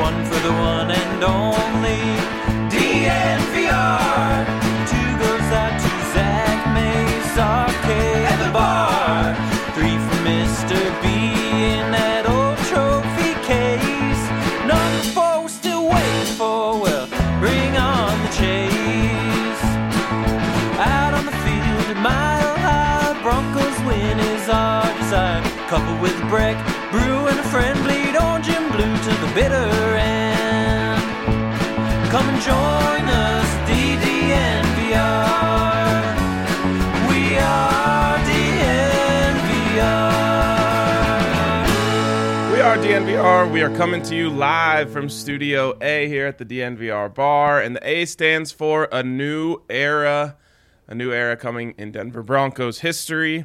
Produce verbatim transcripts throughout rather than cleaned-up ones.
one for the one and only D N V R. Two goes out to Zach Mace, R K at the bar. Three for Mister B in that old trophy case. Number four we're still waiting for, well, bring on the chase. Out on the field, a mile high, Broncos win is our desire. Coupled with Breck, Brew and a friend, bleed orange and blue to the bitter end. Come and join us, D D N V R. We are D N V R. We are D N V R. We are coming to you live from Studio A here at the D N V R bar. And the A stands for a new era, a new era coming in Denver Broncos history.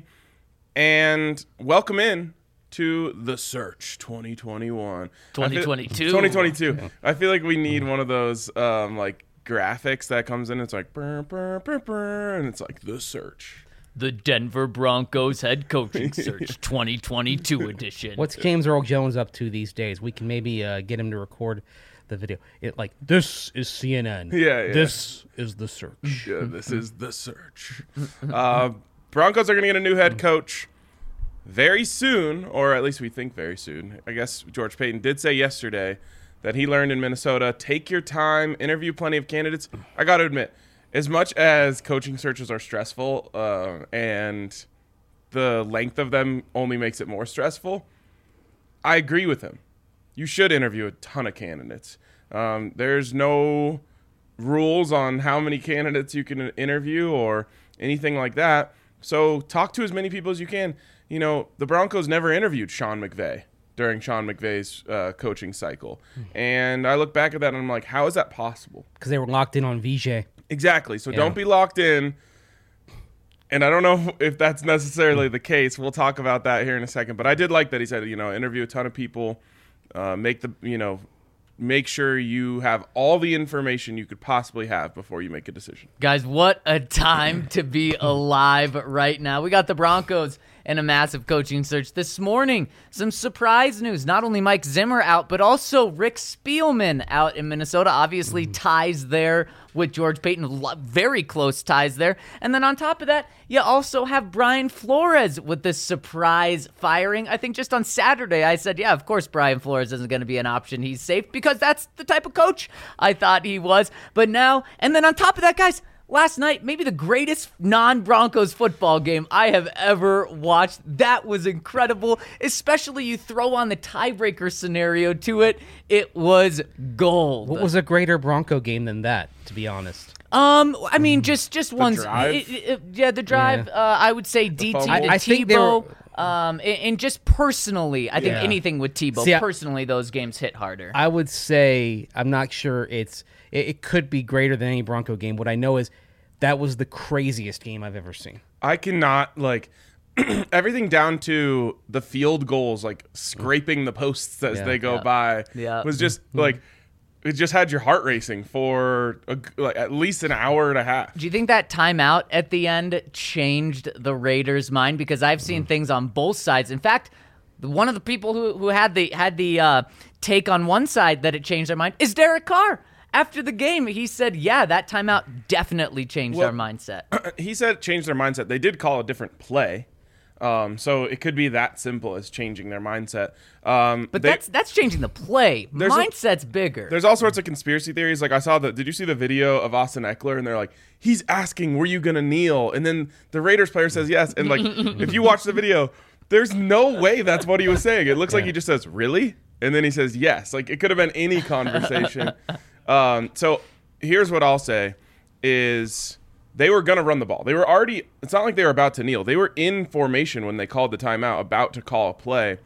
And welcome in to The Search twenty twenty-one. twenty twenty-two. twenty twenty-two. I feel like we need one of those um, like graphics that comes in. It's like, burr, burr, burr, burr, and it's like The Search. The Denver Broncos head coaching search twenty twenty-two edition. What's James Earl Jones up to these days? We can maybe uh, get him to record the video. It like, this is C N N. Yeah, yeah. This is The Search. Yeah, this is The Search. Uh, Broncos are going to get a new head coach very soon, or at least we think very soon. I guess George Paton did say yesterday that he learned in Minnesota, take your time, interview plenty of candidates. I got to admit, as much as coaching searches are stressful uh, and the length of them only makes it more stressful, I agree with him. You should interview a ton of candidates. Um, there's no rules on how many candidates you can interview or anything like that. So talk to as many people as you can. You know, the Broncos never interviewed Sean McVay during Sean McVay's uh, coaching cycle. And I look back at that and I'm like, how is that possible? Because they were locked in on V J. Exactly. So Yeah. don't be locked in. And I don't know if that's necessarily the case. We'll talk about that here in a second. But I did like that he said, you know, interview a ton of people, uh, make the, you know, make sure you have all the information you could possibly have before you make a decision. Guys, what a time to be alive right now. We got the Broncos in a massive coaching search this morning. Some surprise news. Not only Mike Zimmer out, but also Rick Spielman out in Minnesota. Obviously, ties there with George Paton. Very close ties there. And then on top of that, you also have Brian Flores with this surprise firing. I think just on Saturday, I said, yeah, of course Brian Flores isn't going to be an option. He's safe because that's the type of coach I thought he was. But now, and then on top of that, guys, last night, maybe the greatest non-Broncos football game I have ever watched. That was incredible, especially you throw on the tiebreaker scenario to it. It was gold. What was a greater Bronco game than that, to be honest? Um, I mean, just just one. drive? It, it, yeah, the drive. Yeah. Uh, I would say D T fumble? to I- I think they Tebow. were- Um, and, and just personally, I think Yeah. anything with Tebow, See, I- personally, those games hit harder. I would say, I'm not sure it's, it, it could be greater than any Bronco game. What I know is that was the craziest game I've ever seen. I cannot, like, everything down to the field goals, like scraping the posts as Yeah. they go Yeah. by, Yeah. was just like, it just had your heart racing for a, like, at least an hour and a half. Do you think that timeout at the end changed the Raiders' mind? Because I've seen things on both sides. In fact, one of the people who, who had the had the uh, take on one side that it changed their mind is Derek Carr. After the game, he said, yeah, that timeout definitely changed Well- our mindset. He said it changed their mindset. They did call a different play. Um, so it could be that simple as changing their mindset. Um, But they- that's that's changing the play. There's a- Mindset's bigger. There's all sorts of conspiracy theories. Like I saw the, did you see the video of Austin Eckler? And they're like, he's asking, were you going to kneel? And then the Raiders player says yes. And like, if you watch the video, there's no way that's what he was saying. It looks like he just says, really? And then he says yes. Like it could have been any conversation. um, so here's what I'll say is they were going to run the ball. They were already, it's not like they were about to kneel. They were in formation when they called the timeout, about to call a play.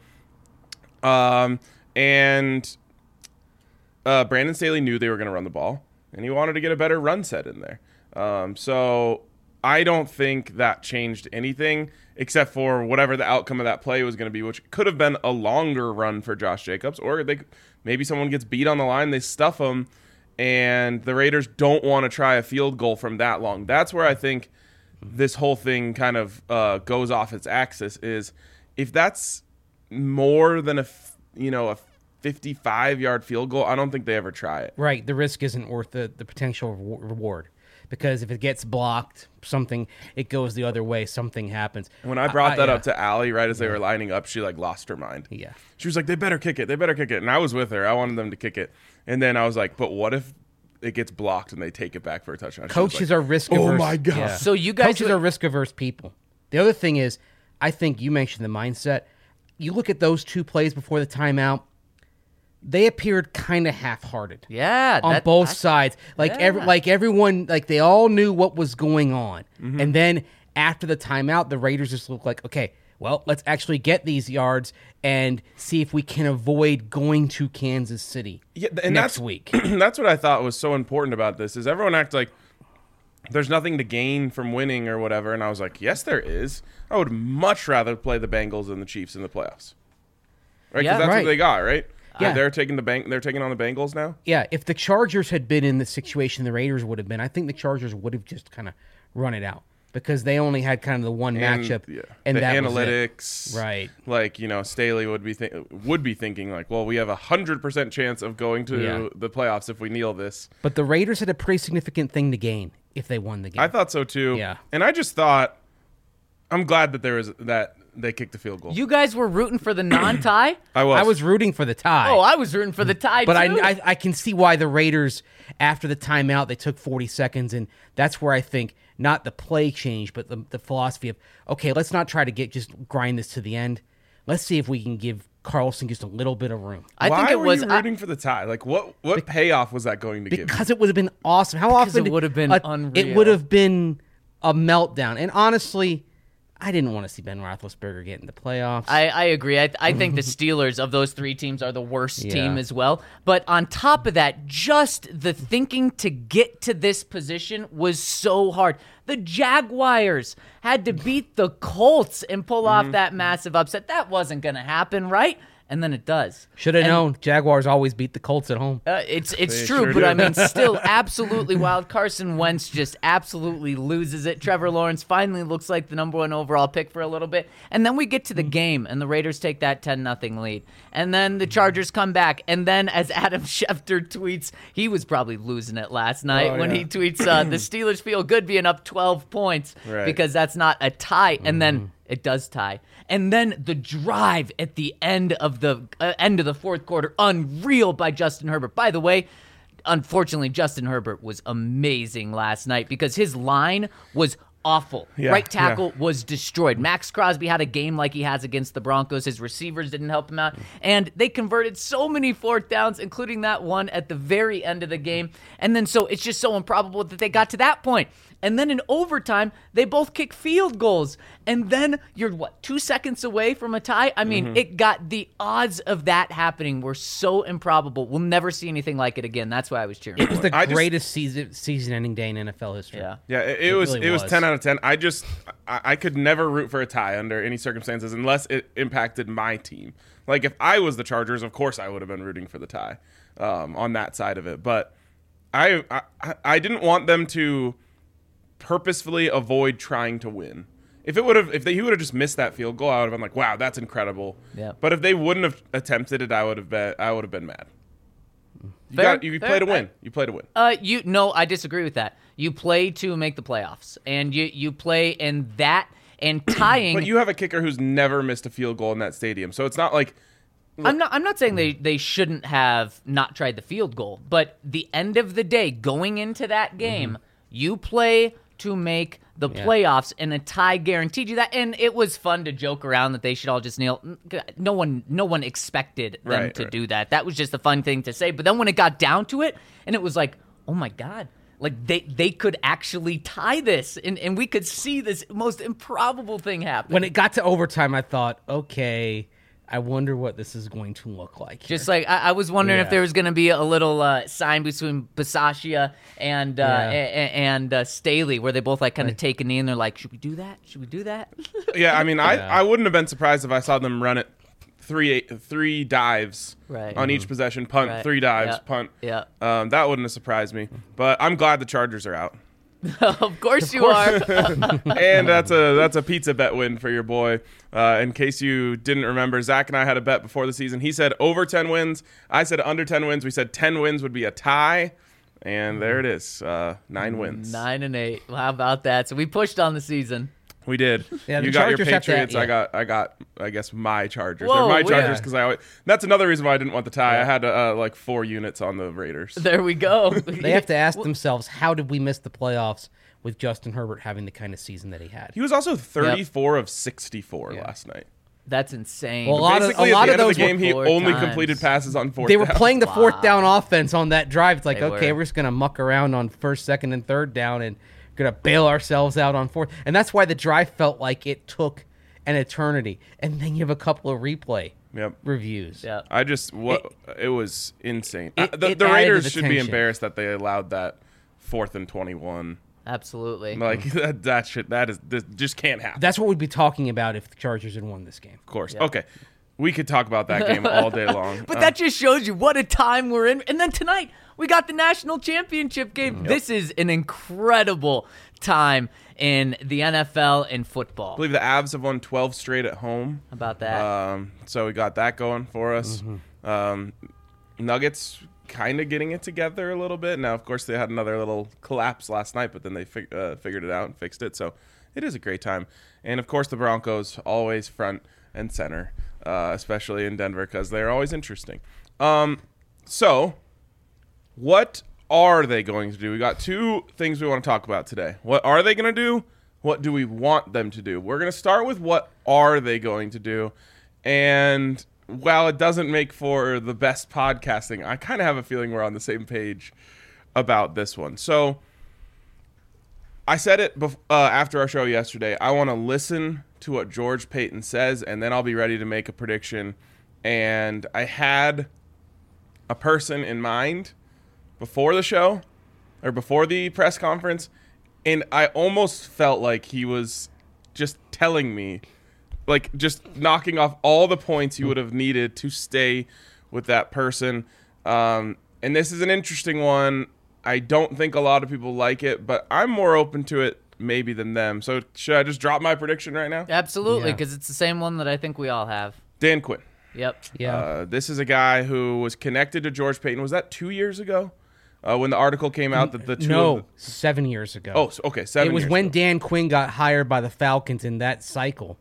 Um, and uh, Brandon Staley knew they were going to run the ball, and he wanted to get a better run set in there. Um, so I don't think that changed anything except for whatever the outcome of that play was going to be, which could have been a longer run for Josh Jacobs, or they maybe someone gets beat on the line, they stuff him, and the Raiders don't want to try a field goal from that long. That's where I think this whole thing kind of uh, goes off its axis is if that's more than a, f- you know, a fifty-five yard field goal, I don't think they ever try it. Right. The risk isn't worth the, the potential re- reward. Because if it gets blocked, something, it goes the other way, something happens. When I brought I, that yeah. up to Allie right as they were lining up, she like lost her mind. Yeah. She was like, they better kick it. They better kick it. And I was with her. I wanted them to kick it. And then I was like, but what if it gets blocked and they take it back for a touchdown? She was Coaches like, are risk averse. Oh my God. Yeah. So you guys Coaches would- are risk averse people. The other thing is, I think you mentioned the mindset. You look at those two plays before the timeout, they appeared kind of half-hearted. Yeah, on that- both I- sides. Like Yeah. every, like everyone, like they all knew what was going on. Mm-hmm. And then after the timeout, the Raiders just looked like, okay, well, let's actually get these yards and see if we can avoid going to Kansas City Yeah, and next that's, week. That's what I thought was so important about this is everyone acts like there's nothing to gain from winning or whatever. And I was like, yes, there is. I would much rather play the Bengals than the Chiefs in the playoffs. Right? Because Yeah. that's Right. what they got, right? Yeah. They're taking the bank. They're taking on the Bengals now. Yeah, if the Chargers had been in the situation the Raiders would have been, I think the Chargers would have just kind of run it out because they only had kind of the one And, matchup, yeah. and the that was it. analytics, Right. Like you know, Staley would be th- would be thinking like, well, we have a hundred percent chance of going to Yeah. the playoffs if we kneel this. But the Raiders had a pretty significant thing to gain if they won the game. I thought so too. Yeah. and I just thought, I'm glad that there was that they kicked the field goal. You guys were rooting for the non-tie? I was. I was rooting for the tie. Oh, I was rooting for the tie But I, too. I I can see why the Raiders, after the timeout, they took forty seconds, and that's where I think not the play change, but the, the philosophy of, okay, let's not try to get just grind this to the end. Let's see if we can give Carlson just a little bit of room. I Why think it were was you I- rooting for the tie? Like, what what payoff was that going to give? Because it would have been awesome. How often it would have been a- unreal. It would have been a meltdown. And honestly, I didn't want to see Ben Roethlisberger get in the playoffs. I, I agree. I, I think the Steelers of those three teams are the worst Yeah. team as well. But on top of that, just the thinking to get to this position was so hard. The Jaguars had to beat the Colts and pull off that massive upset. That wasn't going to happen, right? And then it does. Should have And- known. Jaguars always beat the Colts at home. Uh, it's it's They true, sure but do. I mean, still absolutely wild. Carson Wentz just absolutely loses it. Trevor Lawrence finally looks like the number one overall pick for a little bit, and then we get to the game, and the Raiders take that ten nothing lead, and then the Chargers come back, and then as Adam Schefter tweets, he was probably losing it last night Oh, when yeah. he tweets, uh, "The Steelers feel good being up twelve points Right. because that's not a tie," and then. It does tie. And then the drive at the end of the uh, end of the fourth quarter, unreal by Justin Herbert. By the way, unfortunately, Justin Herbert was amazing last night because his line was awful. Yeah, right tackle yeah. was destroyed. Max Crosby had a game like he has against the Broncos. His receivers didn't help him out. And they converted so many fourth downs, including that one at the very end of the game. And then so it's just so improbable that they got to that point. And then in overtime, they both kick field goals. And then you're, what, two seconds away from a tie? I mean, it got the odds of that happening were so improbable. We'll never see anything like it again. That's why I was cheering It for was it. the I just- greatest season season-ending day in N F L history. Yeah. Yeah, it, it It was really it was was. ten out of ten. I just I, I could never root for a tie under any circumstances unless it impacted my team. Like if I was the Chargers, of course I would have been rooting for the tie um, on that side of it. But I, I I didn't want them to purposefully avoid trying to win. If it would have, if they he would have just missed that field goal, I would have been like, "Wow, that's incredible." Yeah. But if they wouldn't have attempted it, I would have been I would have been mad. You Fair, got you fair. play to win. You play to win. Uh, you no, I disagree with that. You play to make the playoffs, and you you play in that and tying. But you have a kicker who's never missed a field goal in that stadium, so it's not like I'm not. I'm not saying they they shouldn't have not tried the field goal, but the end of the day, going into that game, you play to make the Yeah. playoffs, and a tie guaranteed you that. And it was fun to joke around that they should all just kneel. No one, no one expected them Right, to right. do that. That was just a fun thing to say. But then when it got down to it, and it was like, oh my god. Like they, they could actually tie this, and, and we could see this most improbable thing happen. When it got to overtime, I thought, okay, I wonder what this is going to look like. here. Just like I, I was wondering if Yeah. there was going to be a little uh, sign between Bisaccia and uh, Yeah. a- a- and uh, Staley, where they both like kind of take a knee and they're like, "Should we do that? Should we do that?" Yeah, I mean, I, Yeah. I wouldn't have been surprised if I saw them run it three three dives Right. on each possession, punt, Right. three dives, Yeah. punt. Yeah. Um, that wouldn't have surprised me. But I'm glad the Chargers are out. Of course you are. And that's a that's a pizza bet win for your boy. Uh, in case you didn't remember, Zach and I had a bet before the season. He said over ten wins. I said under ten wins. We said ten wins would be a tie. And there it is. Uh, nine wins. Nine and eight. Well, how about that? So we pushed on the season. We did. Yeah, the you got your Chargers have to- Patriots. yeah. I got, I got, I guess my Chargers. Whoa, They're my we- Chargers Yeah. because I. Always, that's another reason why I didn't want the tie. I had uh, like four units on the Raiders. There we go. They have to ask themselves, how did we miss the playoffs with Justin Herbert having the kind of season that he had? He was also thirty-four of sixty-four Yeah. last night. That's insane. Well, a lot of- Basically, a lot at the of end of the those game, were he four only times. completed passes on fourth They were down. playing the fourth down offense on that drive. It's like, They okay, were. we're just going to muck around on first, second, and third down and going to bail ourselves out on fourth. And that's why the drive felt like it took an eternity. And then you have a couple of replay Yep. reviews. Yeah. I just what it, was insane. It- Uh, the it the added Raiders the should be tension. embarrassed that they allowed that fourth and twenty-one. Absolutely. Like that, that shit. That is this just can't happen. That's what we'd be talking about if the Chargers had won this game. Of course. Yeah. Okay. We could talk about that game all day long. But Uh, that just shows you what a time we're in. And then tonight, we got the national championship game. This is an incredible time in the N F L and I football. believe the Avs have won twelve straight at home. How about that? Um, so we got that going for us. Mm-hmm. Um, Nuggets kind of getting it together a little bit. Now, of course, they had another little collapse last night, but then they fig- uh, figured it out and fixed it. So it is a great time. And, of course, the Broncos always front and center, uh, especially in Denver because they're always interesting. Um, so what are they going to do? We got two things we want to talk about today. What are they going to do? What do we want them to do? We're going to start with what are they going to do? And while it doesn't make for the best podcasting, I kind of have a feeling we're on the same page about this one. So I said it bef- uh, after our show yesterday. I want to listen to what George Paton says, and then I'll be ready to make a prediction. And I had a person in mind before the show or before the press conference, and I almost felt like he was just telling me, like just knocking off all the points you would have needed to stay with that person. Um, and this is an interesting one. I don't think a lot of people like it, but I'm more open to it maybe than them. So should I just drop my prediction right now? Absolutely, Yeah. because it's the same one that I think we all have. Dan Quinn. Yep. Yeah. Uh, this is a guy who was connected to George Paton. Was that two years ago uh, when the article came out that the two no, of the, seven years ago. oh, so- okay, seven It was years when ago. Dan Quinn got hired by the Falcons in that cycle.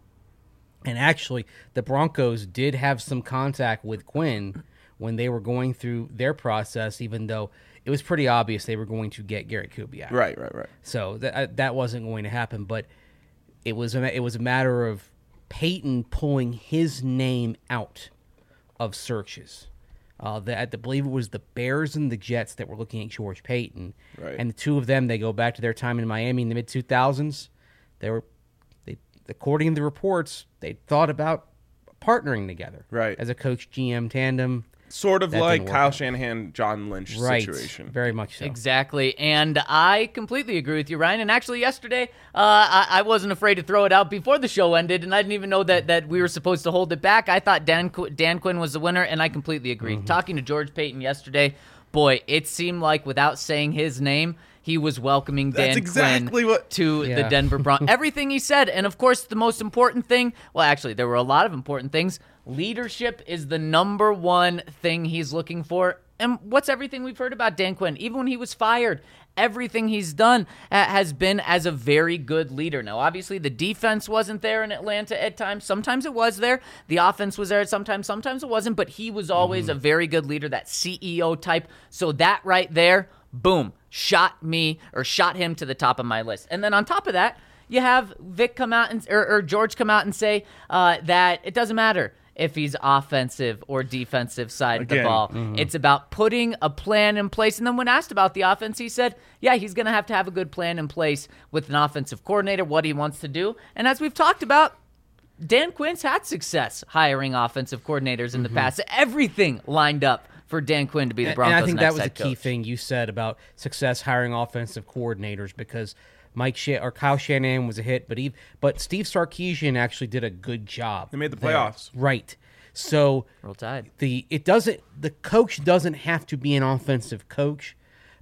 And actually, the Broncos did have some contact with Quinn when they were going through their process, even though it was pretty obvious they were going to get Garrett Kubiak. Right, right, right. So that that wasn't going to happen. But it was a, it was a matter of Peyton pulling his name out of searches. Uh, the, I believe it was the Bears and the Jets that were looking at George Payton, Right. and the two of them, they go back to their time in Miami in the mid two thousands. They were, they according to the reports, they thought about partnering together, Right. as a coach G M tandem. Sort of That like didn't work Kyle out. Shanahan, John Lynch Right, situation. very much so. Exactly, and I completely agree with you, Ryan. And actually, yesterday, uh, I, I wasn't afraid to throw it out before the show ended, and I didn't even know that, that we were supposed to hold it back. I thought Dan Qu- Dan Quinn was the winner, and I completely agreed. Talking to George Payton yesterday, boy, it seemed like without saying his name, he was welcoming Dan That's exactly Quinn what- to the Yeah. Denver Broncos. Everything he said, and of course, the most important thing. Well, actually, there were a lot of important things. Leadership is the number one thing he's looking for. And what's everything we've heard about Dan Quinn? Even when he was fired, everything he's done uh, has been as a very good leader. Now, obviously, the defense wasn't there in Atlanta at times. Sometimes it was there. The offense was there at sometimes. Sometimes it wasn't. But he was always Mm-hmm. a very good leader, that C E O type. So that right there, boom, shot me or shot him to the top of my list. And then on top of that, you have Vic come out and or, or George come out and say uh, that it doesn't matter if he's offensive or defensive side of the Again. ball. It's about putting a plan in place. And then when asked about the offense, he said, yeah, he's going to have to have a good plan in place with an offensive coordinator, what he wants to do. And as we've talked about, Dan Quinn's had success hiring offensive coordinators in the past. Everything lined up for Dan Quinn to be the Broncos' and I think next that was a head key coach. thing you said about success hiring offensive coordinators, because Mike Sh- or Kyle Shanahan was a hit, but he, but Steve Sarkisian actually did a good job. They made the there. playoffs. Right? So Roll Tide. the it doesn't the coach doesn't have to be an offensive coach,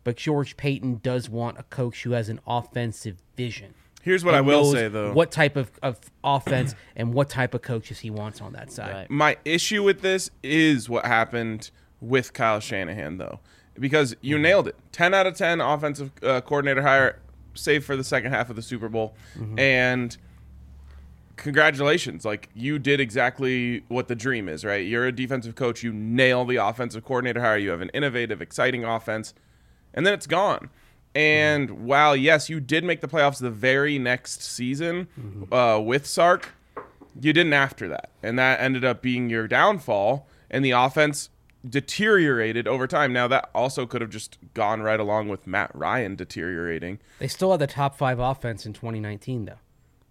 but George Payton does want a coach who has an offensive vision. Here's what I and will knows say, though. What type of, of offense and what type of coaches he wants on that side. Right. My issue with this is what happened with Kyle Shanahan, though, because you nailed it. ten out of ten offensive uh, coordinator hire, save for the second half of the Super Bowl. Mm-hmm. And congratulations. Like, you did exactly what the dream is, right? You're a defensive coach. You nail the offensive coordinator hire. You have an innovative, exciting offense. And then it's gone. And mm-hmm. while, yes, you did make the playoffs the very next season mm-hmm. uh, with Sark, you didn't after that. And that ended up being your downfall. And the offense deteriorated over time. Now, that also could have just gone right along with Matt Ryan deteriorating. They still had the top five offense in twenty nineteen, though.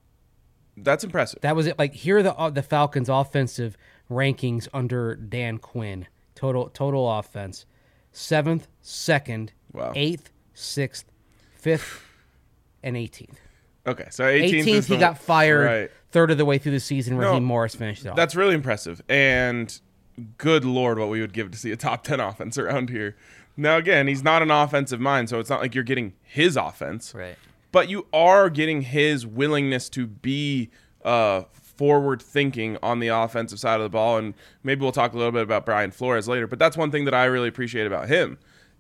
That's impressive. That was it. Like, here are the uh, the Falcons' offensive rankings under Dan Quinn. Total total offense: seventh, second, Wow. eighth, sixth, fifth, and eighteenth. Okay, so eighteenth, eighteenth is he the, got fired right. third of the way through the season. No, Raheem Morris finished it off. That's really impressive. And good Lord, what we would give to see a top ten offense around here. Now, again, he's not an offensive mind, so it's not like you're getting his offense. Right. But you are getting his willingness to be uh, forward-thinking on the offensive side of the ball. And maybe we'll talk a little bit about Brian Flores later. But that's one thing that I really appreciate about him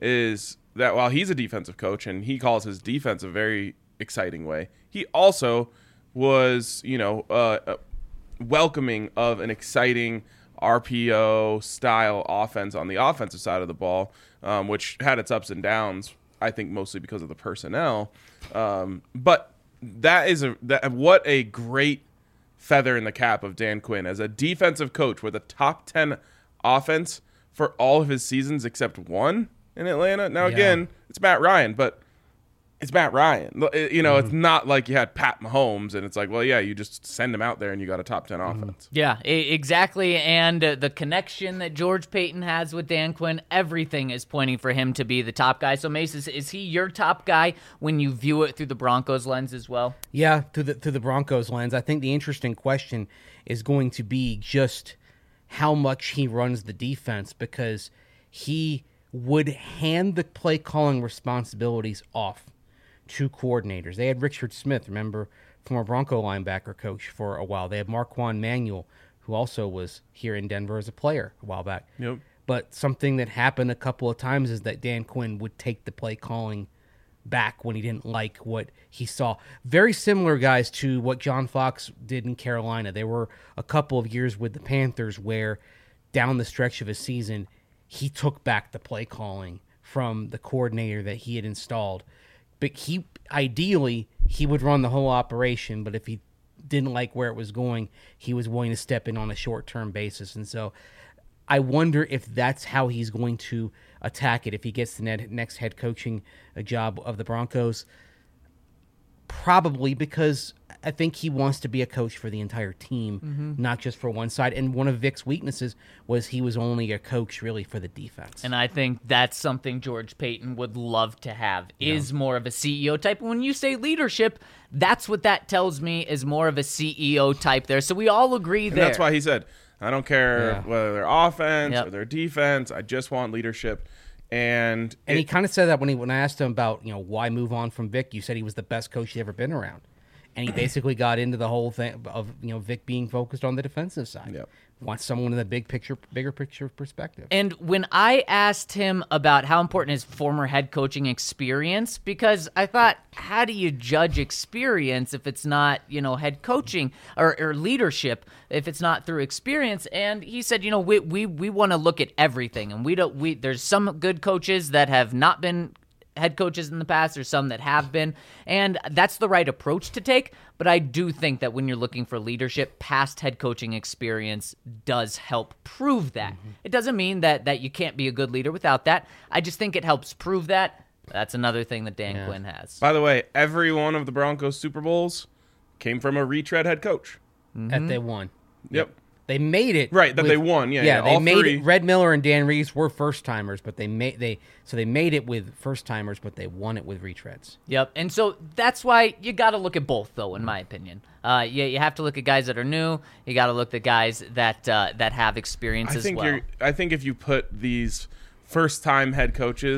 is that while he's a defensive coach and he calls his defense a very exciting way, he also was, you know, uh, welcoming of an exciting R P O style offense on the offensive side of the ball, um, which had its ups and downs, I think mostly because of the personnel. Um, but that is a that, what a great feather in the cap of Dan Quinn as a defensive coach with a top ten offense for all of his seasons except one in Atlanta. Now, Yeah. again, it's Matt Ryan, but it's Matt Ryan. You know, mm-hmm. It's not like you had Pat Mahomes, and it's like, well, yeah, you just send him out there and you got a top ten mm-hmm. offense. Yeah, e- exactly. And uh, the connection that George Payton has with Dan Quinn, everything is pointing for him to be the top guy. So, Mace, is, is he your top guy when you view it through the Broncos lens as well? Yeah, through the through the Broncos lens. I think the interesting question is going to be just how much he runs the defense, because he would hand the play calling responsibilities off to coordinators. They had Richard Smith, remember, former Bronco linebacker coach for a while. They had Marquand Manuel, who also was here in Denver as a player a while back. Yep. But something that happened a couple of times is that Dan Quinn would take the play calling back when he didn't like what he saw. Very similar, guys, to what John Fox did in Carolina. There were a couple of years with the Panthers where down the stretch of a season, he took back the play calling from the coordinator that he had installed. But he ideally he would run the whole operation, but if he didn't like where it was going, he was willing to step in on a short-term basis. And so I wonder if that's how he's going to attack it if he gets the next head coaching job of the Broncos. Probably because I think he wants to be a coach for the entire team, mm-hmm. not just for one side. And one of Vic's weaknesses was he was only a coach really for the defense. And I think that's something George Payton would love to have, is yeah. more of a C E O type. When you say leadership, that's what that tells me is more of a C E O type there. So we all agree and there. That's why he said, I don't care Yeah. whether they're offense Yep. or their defense. I just want leadership. And, And it, he kind of said that when he when I asked him about, you know, why move on from Vic, you said he was the best coach he'd ever been around. And he basically got into the whole thing of, you know, Vic being focused on the defensive side. Yep. Wants someone in the big picture, bigger picture perspective. And when I asked him about how important his former head coaching experience, because I thought, how do you judge experience if it's not, you know, head coaching or, or leadership, if it's not through experience? And he said, you know, we we, we want to look at everything, and we don't. We there's some good coaches that have not been head coaches in the past, or some that have been, and that's the right approach to take. But I do think that when you're looking for leadership, past head coaching experience does help prove that. Mm-hmm. It doesn't mean that that you can't be a good leader without that. I just think it helps prove that. That's another thing that Dan Yeah. Quinn has. by the way, every one of the Broncos Super Bowls came from a retread head coach. That they won. Yep. They made it Right, that with- they won. Yeah, yeah. yeah, They all made three. it. Red Miller and Dan Reeves were first timers, but they made they so they made it with first timers, but they won it with retreads. Yep, and so that's why you got to look at both, though, in my opinion. Uh, yeah, you have to look at guys that are new. You got to look at guys that uh, that have experience I as think well. you're. I think if you put these first-time head coaches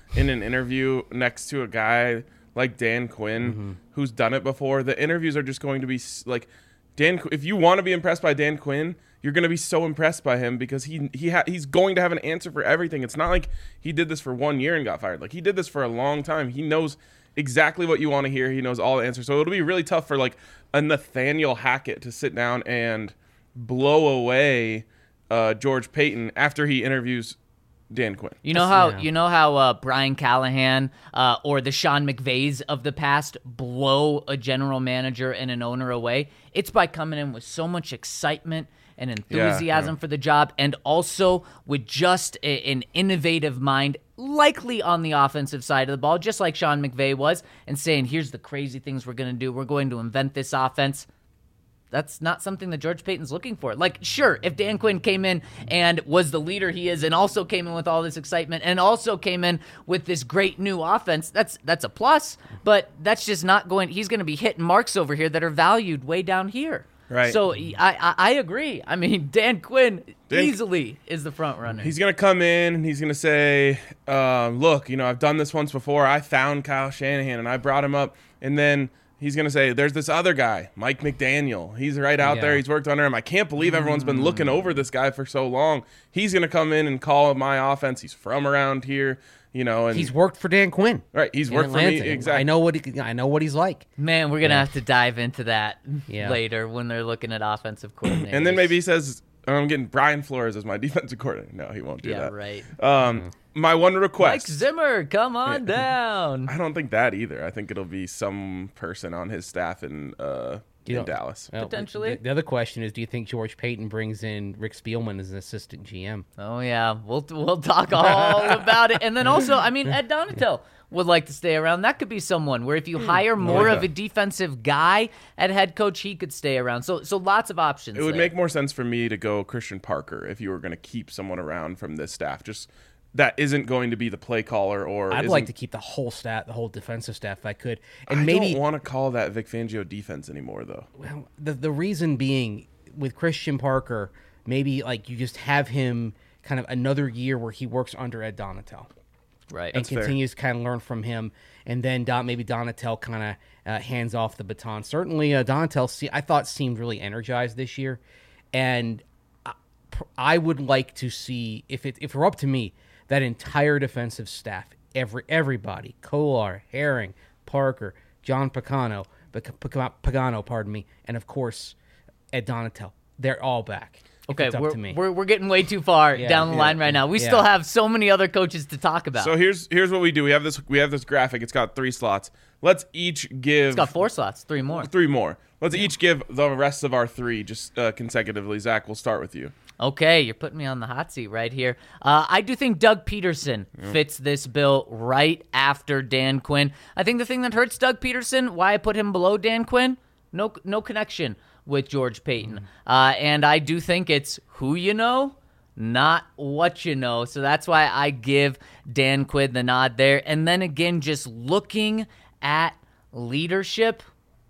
in an interview next to a guy like Dan Quinn, mm-hmm. who's done it before, the interviews are just going to be like Dan. If you want to be impressed by Dan Quinn, you're going to be so impressed by him because he he ha- he's going to have an answer for everything. It's not like he did this for one year and got fired. Like he did this for a long time. He knows exactly what you want to hear. He knows all the answers. So it'll be really tough for like a Nathaniel Hackett to sit down and blow away uh, George Paton after he interviews Dan Quinn. You know how yeah. you know how uh, Brian Callahan uh, or the Sean McVays of the past blow a general manager and an owner away? It's by coming in with so much excitement and enthusiasm yeah, yeah. for the job, and also with just a, an innovative mind, likely on the offensive side of the ball, just like Sean McVay was, and saying, here's the crazy things we're going to do. We're going to invent this offense. That's not something that George Paton's looking for. Like, sure, if Dan Quinn came in and was the leader he is and also came in with all this excitement and also came in with this great new offense, that's that's a plus, but that's just not going – he's going to be hitting marks over here that are valued way down here. Right. So I, I I agree. I mean, Dan Quinn Dan, easily is the front runner. He's going to come in and he's going to say, um, look, you know, I've done this once before. I found Kyle Shanahan and I brought him up. And then he's going to say, there's this other guy, Mike McDaniel. He's right out yeah. there. He's worked under him. I can't believe everyone's been looking over this guy for so long. He's going to come in and call my offense. He's from around here. You know, and He's worked for Dan Quinn. right. He's in worked for Atlanta. me. Exactly. I know what he, I know what he's like. Man, we're going to have to dive into that Yeah. later when they're looking at offensive coordinators. And then maybe he says, I'm getting Brian Flores as my defensive coordinator. No, he won't do Yeah, that. right. Um, my one Mike request. Zimmer, come on down. I don't think that either. I think it'll be some person on his staff in uh, You in know- Dallas. Well, Potentially. The, the other question is, do you think George Paton brings in Rick Spielman as an assistant G M? Oh yeah, we'll we'll talk all about it. And then also, I mean, Ed Donatel would like to stay around. That could be someone where if you hire more yeah. of a defensive guy at head coach, he could stay around. So so lots of options. It would there. make more sense for me to go Christian Parker if you were going to keep someone around from this staff. Just that isn't going to be the play caller, or I'd isn't- like to keep the whole staff, the whole defensive staff, if I could, and I maybe don't want to call that Vic Fangio defense anymore, though. well, the the reason being with Christian Parker, maybe like you just have him kind of another year where he works under Ed Donatel. right. and fair. continues to kind of learn from him, and then Don, maybe Donatel kind of uh, hands off the baton. Certainly, uh, Donatel, se- I thought, seemed really energized this year, and I, I would like to see, if it if it were up to me, that entire defensive staff, every everybody, Kolar, Herring, Parker, John Pagano, Pac- Pac- Pagano, pardon me, and of course, Ed Donatel, they're all back. if Okay, it's up we're, to me. we're we're getting way too far Yeah, down the yeah, line right now. We yeah. still have so many other coaches to talk about. So here's here's what we do. We have this we have this graphic. It's got three slots. Let's each give it's got four slots, three more. three more. Let's each give the rest of our three just uh, consecutively. Zach, we'll start with you. Okay, you're putting me on the hot seat right here. Uh, I do think Doug Peterson fits this bill right after Dan Quinn. I think the thing that hurts Doug Peterson, why I put him below Dan Quinn, no no connection with George Paton. Uh, and I do think it's who you know, not what you know. So that's why I give Dan Quinn the nod there. And then again, just looking at leadership,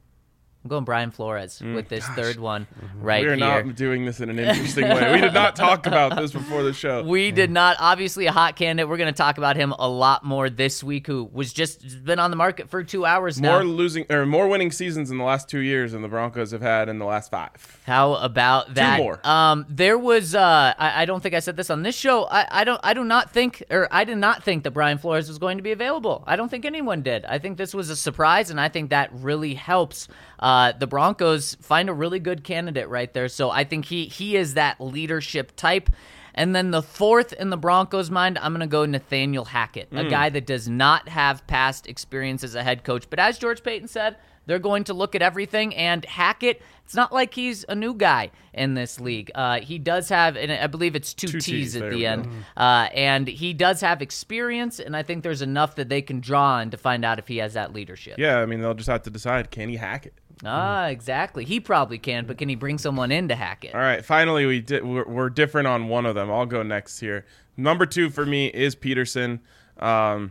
I'm going Brian Flores with this third one right we are here. not doing this in an interesting way. We did not talk about this before the show. We did not. Obviously, a hot candidate. We're going to talk about him a lot more this week. Who was just been on the market for two hours now. More losing or more winning seasons in the last two years than the Broncos have had in the last five. How about that? more. Um, there was. Uh, I, I don't think I said this on this show. I, I don't. I do not think, or I did not think that Brian Flores was going to be available. I don't think anyone did. I think this was a surprise, and I think that really helps uh, the Broncos find a really good candidate right there. So I think he he is that leadership type. And then the fourth in the Broncos' mind, I'm going to go Nathaniel Hackett, a guy that does not have past experience as a head coach. But as George Paton said, they're going to look at everything. And Hackett, it's not like he's a new guy in this league. Uh, he does have, and I believe it's two, Two T's T's, at there the we end. go. Uh, and he does have experience, and I think there's enough that they can draw on to find out if he has that leadership. Yeah, I mean they'll just have to decide, can he hack it? Ah, exactly. He probably can, but can he bring someone in to hack it? All right, finally we did. We're, we're different on one of them. I'll go next here. Number two for me is Peterson. Um,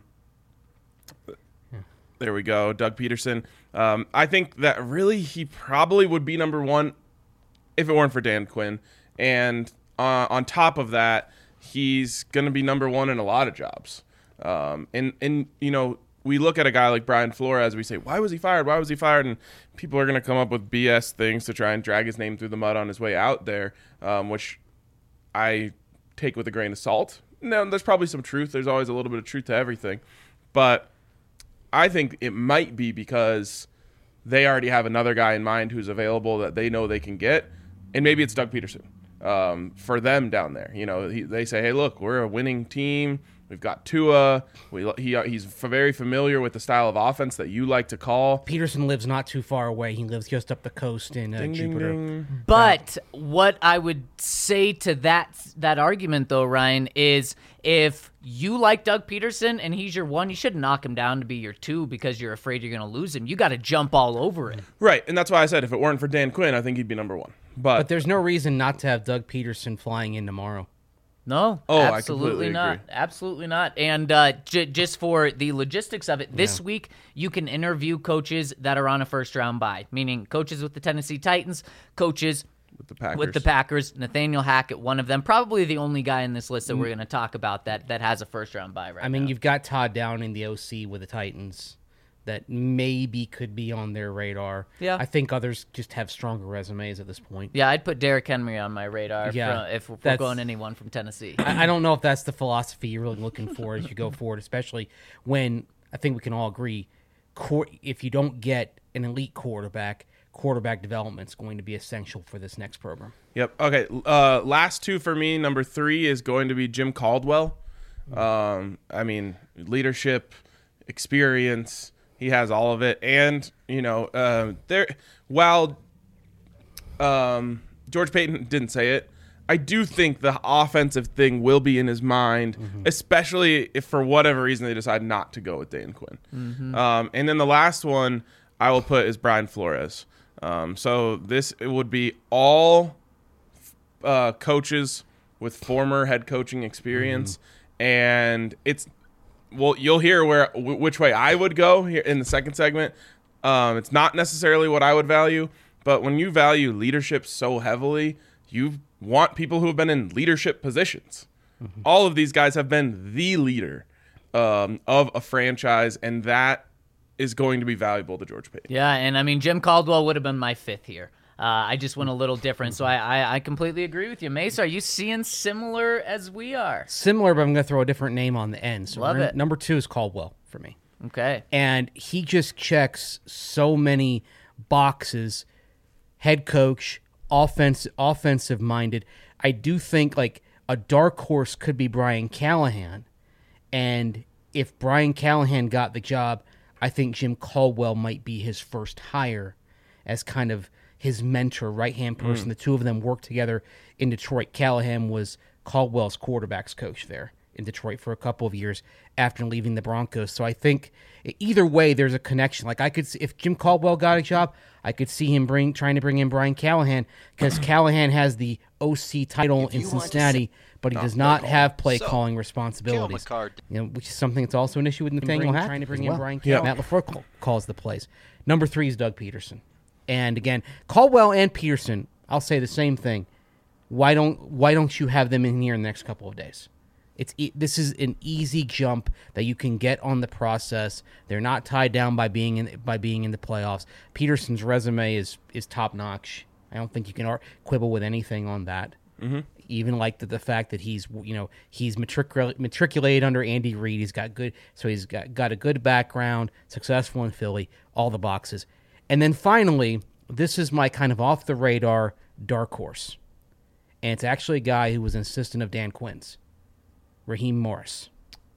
there we go, Doug Peterson. Um, I think that really he probably would be number one if it weren't for Dan Quinn. And uh, on top of that, he's going to be number one in a lot of jobs. Um, and and you know, we look at a guy like Brian Flores, we say, why was he fired? Why was he fired? And people are going to come up with B S things to try and drag his name through the mud on his way out there, um, which I take with a grain of salt. No, there's probably some truth. There's always a little bit of truth to everything. But I think it might be because they already have another guy in mind who's available that they know they can get. And maybe it's Doug Peterson um, for them down there. You know, he, they say, hey, look, we're a winning team. We've got Tua. We, he, he's very familiar with the style of offense that you like to call. Peterson lives not too far away. He lives just up the coast in uh, Ding, ding, Jupiter. ding. But what I would say to that that argument, though, Ryan, is if you like Doug Peterson and he's your one, you shouldn't knock him down to be your two because you're afraid you're going to lose him. You got to jump all over it. Right, and that's why I said if it weren't for Dan Quinn, I think he'd be number one. But, But there's no reason not to have Doug Peterson flying in tomorrow. No, Oh, I absolutely completely not. agree. Absolutely not. And uh, j- just for the logistics of it, this week you can interview coaches that are on a first round bye, meaning coaches with the Tennessee Titans, coaches with the Packers. with the Packers. Nathaniel Hackett, one of them, probably the only guy in this list that we're going to talk about that that has a first round bye right I mean, now. you've got Todd Downing, the O C with the Titans, that maybe could be on their radar. Yeah. I think others just have stronger resumes at this point. Yeah, I'd put Derrick Henry on my radar Yeah, from, if we're that's- going anyone from Tennessee. I, I don't know if that's the philosophy you're really looking for as you go forward, especially when I think we can all agree, quar- if you don't get an elite quarterback, quarterback development is going to be essential for this next program. Yep. Okay. Uh, last two for me. Number three is going to be Jim Caldwell. Um, I mean, leadership, experience. He has all of it, and you know, uh, there. While um, George Payton didn't say it, I do think the offensive thing will be in his mind, especially if for whatever reason they decide not to go with Dan Quinn. Um, and then the last one I will put is Brian Flores. Um, so this it would be all uh, coaches with former head coaching experience, and it's well, you'll hear where w- which way I would go here in the second segment. Um, it's not necessarily what I would value, but when you value leadership so heavily, you want people who have been in leadership positions. Mm-hmm. All of these guys have been the leader um, of a franchise, and that is going to be valuable to George Payton. Yeah, and I mean, Jim Caldwell would have been my fifth here. Uh, I just went a little different, so I, I, I completely agree with you. Mace, are you seeing similar as we are? Similar, but I'm going to throw a different name on the end. So Love we're- it. Number two is Caldwell for me. Okay. And he just checks so many boxes. Head coach, offense, offensive minded. I do think like a dark horse could be Brian Callahan. And if Brian Callahan got the job, I think Jim Caldwell might be his first hire as kind of his mentor, right-hand person. Mm. The two of them worked together in Detroit. Callahan was Caldwell's quarterbacks coach there in Detroit for a couple of years after leaving the Broncos. So I think either way, there's a connection. Like I could see, if Jim Caldwell got a job, I could see him bring trying to bring in Brian Callahan because Callahan has the O C title in Cincinnati, but he does not have play calling responsibilities. You know, which is something that's also an issue with Nathaniel Hackett. Trying to bring in well. Brian Callahan. Matt LaFleur call, calls the plays. Number three is Doug Peterson. And again, Caldwell and Peterson, I'll say the same thing. Why don't why don't you have them in here in the next couple of days? It's this is an easy jump that you can get on the process. They're not tied down by being in by being in the playoffs. Peterson's resume is is top notch. I don't think you can quibble with anything on that. Mm-hmm. Even like the, the fact that he's you know he's matricul- matriculated under Andy Reid. He's got good, so he's got got a good background, successful in Philly, all the boxes. And then finally, this is my kind of off the radar dark horse, and it's actually a guy who was an assistant of Dan Quinn's. Raheem Morris.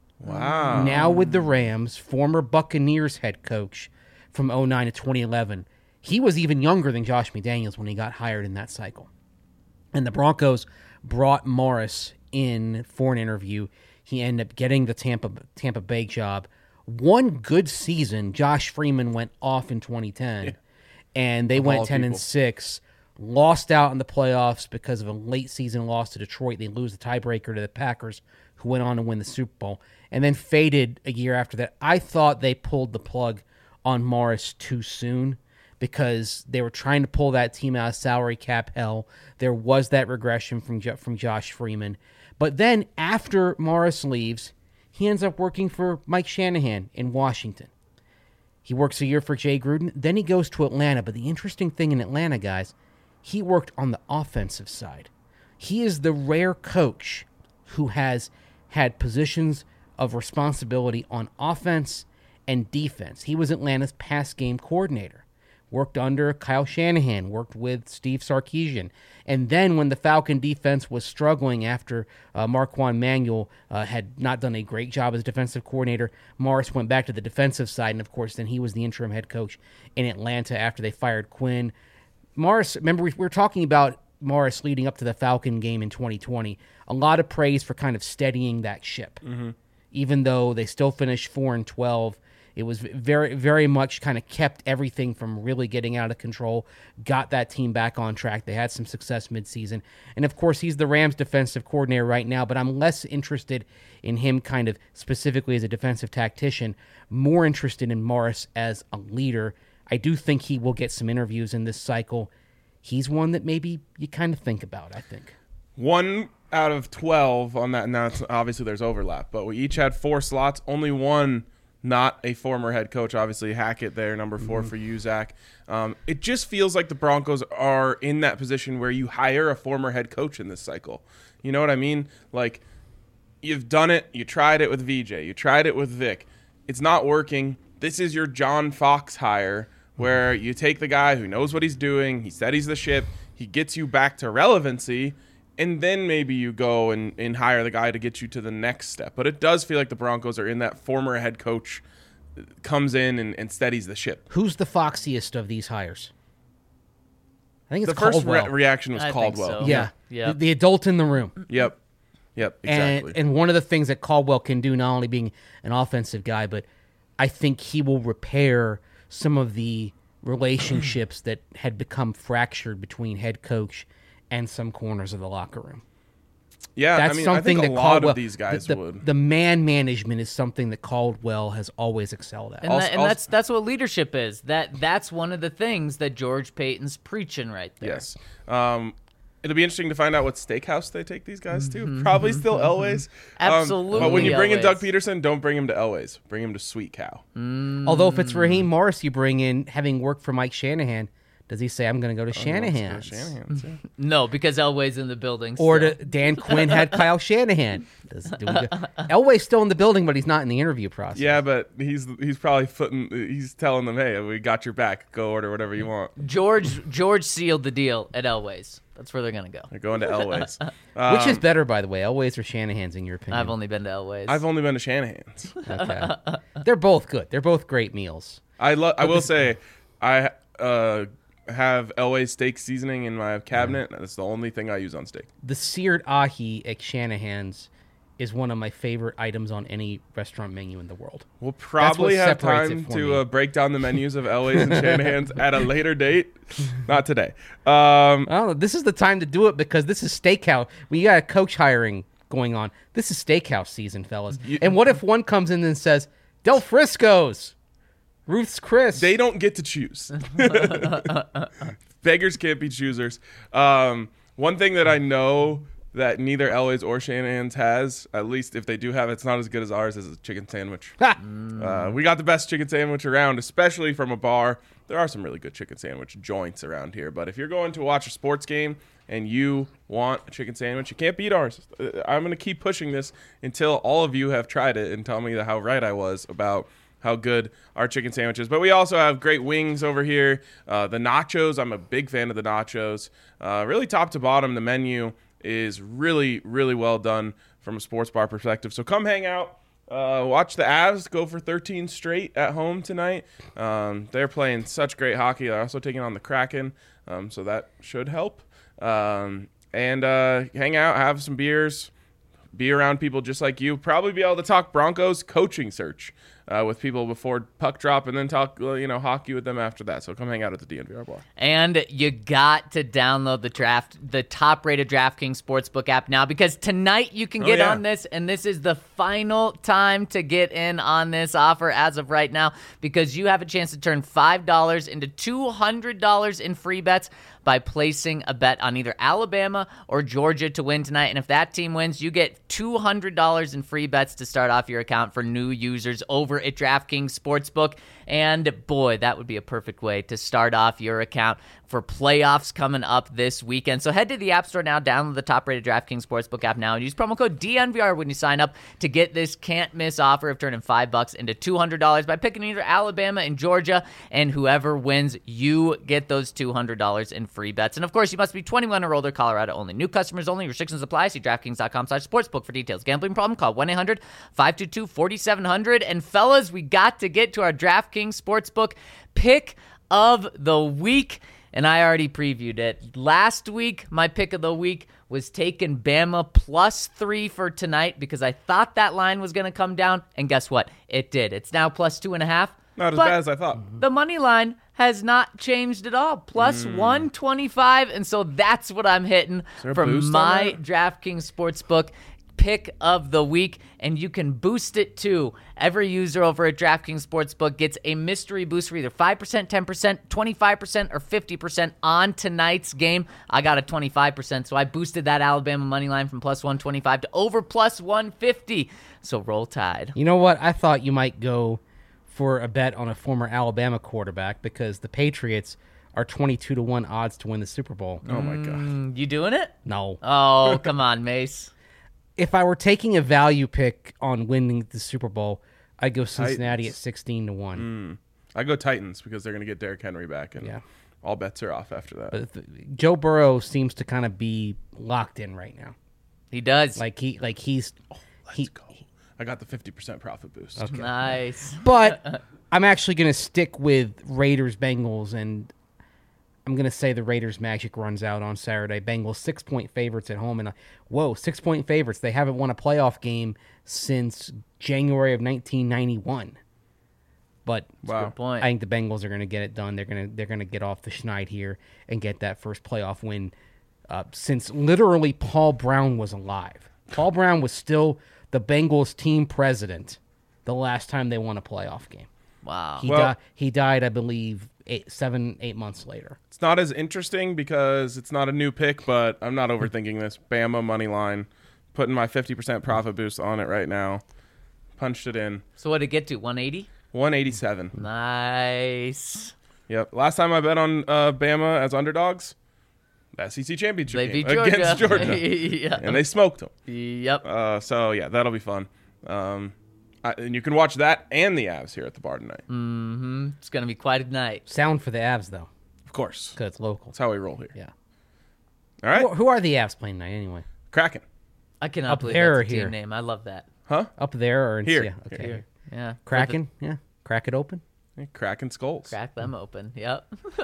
Wow. Now with the Rams, former Buccaneers head coach from oh nine to twenty eleven. He was even younger than Josh McDaniels when he got hired in that cycle. And the Broncos brought Morris in for an interview. He ended up getting the Tampa Tampa Bay job. One good season, Josh Freeman went off in twenty ten, yeah. and they of went ten people. and six. Lost out in the playoffs because of a late season loss to Detroit. They lose the tiebreaker to the Packers, who went on to win the Super Bowl, and then faded a year after that. I thought they pulled the plug on Morris too soon because they were trying to pull that team out of salary cap hell. There was that regression from from Josh Freeman. But then after Morris leaves, he ends up working for Mike Shanahan in Washington. He works a year for Jay Gruden. Then he goes to Atlanta. But the interesting thing in Atlanta, guys, he worked on the offensive side. He is the rare coach who has had positions of responsibility on offense and defense. He was Atlanta's pass game coordinator. Worked under Kyle Shanahan, worked with Steve Sarkisian. And then when the Falcon defense was struggling after uh, Marquand Manuel uh, had not done a great job as defensive coordinator, Morris went back to the defensive side, and of course then he was the interim head coach in Atlanta after they fired Quinn. Morris, remember we were talking about Morris leading up to the Falcon game in twenty twenty. A lot of praise for kind of steadying that ship. Mm-hmm. Even though they still finished four and twelve, it was very, very much kind of kept everything from really getting out of control, got that team back on track. They had some success midseason. And, of course, he's the Rams defensive coordinator right now, but I'm less interested in him kind of specifically as a defensive tactician, more interested in Morris as a leader. I do think he will get some interviews in this cycle. He's one that maybe you kind of think about, I think. One out of twelve on that. Now, it's, obviously, there's overlap, but we each had four slots. Only one not a former head coach. Obviously, Hackett there, number four mm-hmm. for you, Zach. Um, it just feels like the Broncos are in that position where you hire a former head coach in this cycle. You know what I mean? Like, you've done it. You tried it with V J. You tried it with Vic. It's not working. This is your John Fox hire where you take the guy who knows what he's doing. He steadies the ship. He gets you back to relevancy. And then maybe you go and, and hire the guy to get you to the next step. But it does feel like the Broncos are in that former head coach comes in and, and steadies the ship. Who's the foxiest of these hires? I think it's the Caldwell. first re- reaction was I Caldwell. think so. Yeah, Yep. The, the adult in the room. Yep. Yep, exactly. And, and one of the things that Caldwell can do, not only being an offensive guy, but I think he will repair some of the relationships that had become fractured between head coach and some corners of the locker room. Yeah, That's I mean, something I think a that lot Caldwell, of these guys the, the, would. The man management is something that Caldwell has always excelled at. And, Also- that, and also- that's that's what leadership is. That that's one of the things that George Payton's preaching right there. Yes. Um, it'll be interesting to find out what steakhouse they take these guys to. Probably still Elway's. Um, Absolutely but when you bring in Doug Elway's. Peterson, don't bring him to Elway's. Bring him to Sweet Cow. Although if it's Raheem Morris you bring in, having worked for Mike Shanahan, does he say, I'm going to go to Shanahan's? Shanahan's, yeah. No, because Elway's in the building. Or still. to, Dan Quinn had Kyle Shanahan. Does, do we go, Elway's still in the building, but he's not in the interview process. Yeah, but he's he's probably footing. He's telling them, "Hey, we got your back. Go order whatever you want." George George sealed the deal at Elway's. That's where they're gonna go. They're going to Elway's. Um, Which is better, by the way, Elway's or Shanahan's, in your opinion? I've only been to Elway's. I've only been to Shanahan's. Okay. They're both good. They're both great meals. I love. I will say, I uh, have Elway's steak seasoning in my cabinet. That's the only thing I use on steak. The seared ahi at Shanahan's is one of my favorite items on any restaurant menu in the world. We'll probably what have separates time it for to me. uh, break down the menus of Elway's and Shanahan's at a later date. Not today. Um, Oh, this is the time to do it because this is steakhouse. We got a coach hiring going on. This is steakhouse season, fellas. You- and what if one comes in and says, Del Frisco's, Ruth's Chris? They don't get to choose. Beggars can't be choosers. Um, one thing that I know that neither Elway's or Shanahan's has, at least if they do have it, it's not as good as ours, is a chicken sandwich. Ha! Uh, we got the best chicken sandwich around, especially from a bar. There are some really good chicken sandwich joints around here, but if you're going to watch a sports game and you want a chicken sandwich, you can't beat ours. Uh, I'm going to keep pushing this until all of you have tried it and tell me how right I was about how good our chicken sandwich is. But we also have great wings over here. Uh, the nachos, I'm a big fan of the nachos. Uh, really top to bottom, the menu is really, really well done from a sports bar perspective. So come hang out. Uh, watch the Avs go for thirteen straight at home tonight. Um, they're playing such great hockey. They're also taking on the Kraken, um, so that should help. Um, and uh, hang out, have some beers, be around people just like you. Probably be able to talk Broncos coaching search uh, with people before puck drop, and then talk uh, you know hockey with them after that. So come hang out at the D N V R bar. And you got to download the draft, the top-rated DraftKings Sportsbook app now, because tonight you can Oh, get yeah. on this, and this is the final time to get in on this offer as of right now, because you have a chance to turn five dollars into two hundred dollars in free bets by placing a bet on either Alabama or Georgia to win tonight. And if that team wins, you get two hundred dollars in free bets to start off your account for new users over at DraftKings Sportsbook. And boy, that would be a perfect way to start off your account for playoffs coming up this weekend. So head to the App Store now, download the top-rated DraftKings Sportsbook app now, and use promo code D N V R when you sign up to get this can't-miss offer of turning five bucks into two hundred dollars by picking either Alabama and Georgia, and whoever wins, you get those two hundred dollars in free bets. And of course, you must be twenty-one or older, Colorado only. New customers only. Restrictions apply. See DraftKings.com slash sportsbook for details. Gambling problem? Call one eight hundred five two two four seven zero zero. And fellas, we got to get to our DraftKings Sportsbook pick of the week. And I already previewed it. Last week, my pick of the week was taking Bama plus three for tonight because I thought that line was going to come down. And guess what? It did. It's now plus two and a half. Not as but bad as I thought. The money line has not changed at all. Plus Mm. one twenty-five. And so that's what I'm hitting there a for boost on my that? DraftKings Sportsbook pick of the week, and you can boost it too. Every user over at DraftKings Sportsbook gets a mystery boost for either five percent, ten percent, twenty-five percent, or fifty percent on tonight's game. I got a twenty-five percent, so I boosted that Alabama money line from plus one twenty-five to over plus one fifty. So roll Tide. You know what? I thought you might go for a bet on a former Alabama quarterback because the Patriots are twenty-two to one odds to win the Super Bowl. Oh, my God. Mm, you doing it? No. Oh, come on, Mace. If I were taking a value pick on winning the Super Bowl, I'd go Cincinnati Titans. at sixteen to one. I go Titans because they're going to get Derrick Henry back, and Yeah. all bets are off after that. But the, Joe Burrow seems to kind of be locked in right now. He does. Like he, like he's, Let's he, go. I got the fifty percent profit boost. Okay. Nice. But I'm actually going to stick with Raiders Bengals, and I'm going to say the Raiders magic runs out on Saturday. Bengals six point favorites at home, and uh, whoa, six point favorites. They haven't won a playoff game since January of nineteen ninety-one. But Wow. Good point. I think the Bengals are going to get it done. They're going to they're going to get off the schneid here and get that first playoff win uh, since literally Paul Brown was alive. Paul Brown was still the Bengals team president the last time they won a playoff game. Wow. He Well- died. He died, I believe, eight, seven, eight months later. It's not as interesting because it's not a new pick, but I'm not overthinking this. Bama money line, putting my fifty percent profit boost on it right now. Punched it in. So what did it get to? one eighty? one eighty-seven. Nice. Yep. Last time I bet on uh, Bama as underdogs, the S E C championship They game beat Georgia. against Georgia, yeah. and they smoked them. Yep. Uh, so yeah, that'll be fun. Um, I, and you can watch that and the Avs here at the bar tonight. Mm-hmm. It's going to be quite a night. Sound for the Avs, though, Of course, because it's local. that's how we roll here. Yeah. All right, Who, who are the Avs playing tonight, anyway? Kraken, I cannot Up believe there that's a or here? team name. I love that. huh? Up there or in Here. yeah, okay. Here. Yeah. Kraken, yeah. Crack it open. Hey, Kraken skulls. Crack them open. Yep.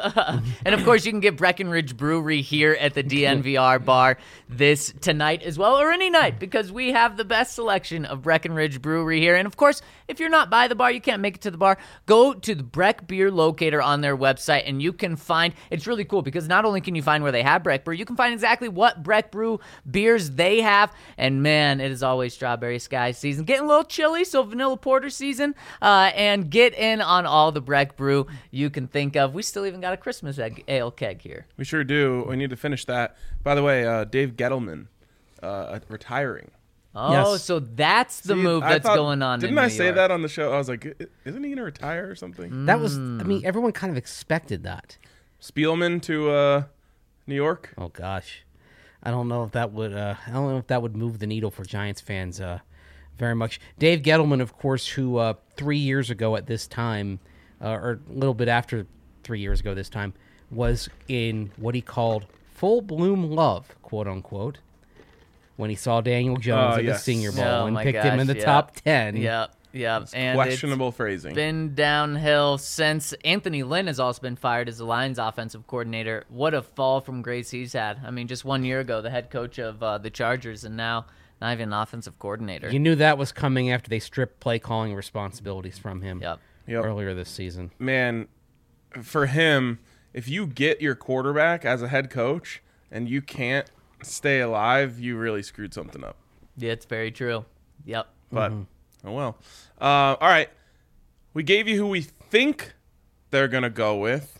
And of course, you can get Breckenridge Brewery here at the D N V R bar this tonight as well, or any night, because we have the best selection of Breckenridge Brewery here. And of course, if you're not by the bar, you can't make it to the bar, go to the Breck Beer Locator on their website, and you can find, it's really cool because not only can you find where they have Breck Brew, you can find exactly what Breck Brew beers they have. And man, it is always Strawberry Sky season. Getting a little chilly, so Vanilla Porter season, uh, and get in on all the Breck Brew you can think of. We still even got a Christmas egg, ale keg here. We sure do. We need to finish that. By the way, uh, Dave Gettleman uh, retiring. Oh, Yes. so that's the See, move I that's thought- going on Didn't in I New say York. that on the show? I was like, "I- isn't he going to retire or something? That was, I mean, everyone kind of expected that. Spielman to uh, New York. Oh gosh, I don't know if that would. Uh, I don't know if that would move the needle for Giants fans uh, very much. Dave Gettleman, of course, who uh, three years ago at this time, uh, or a little bit after three years ago this time, was in what he called full bloom love, quote unquote, when he saw Daniel Jones Oh, at yes. the Senior Bowl Oh, and my picked him in gosh, the yeah. top ten. Yep, yep. And Questionable it's phrasing. been downhill since. Anthony Lynn has also been fired as the Lions offensive coordinator. What a fall from grace he's had. I mean, just one year ago, the head coach of uh, the Chargers, and now not even an offensive coordinator. You knew that was coming after they stripped play calling responsibilities from him Yep. Yep. earlier this season. Man, for him, if you get your quarterback as a head coach and you can't stay alive, you really screwed something up. Yeah, it's very true. Yep. But oh well. Uh, all right, we gave you who we think they're gonna go with,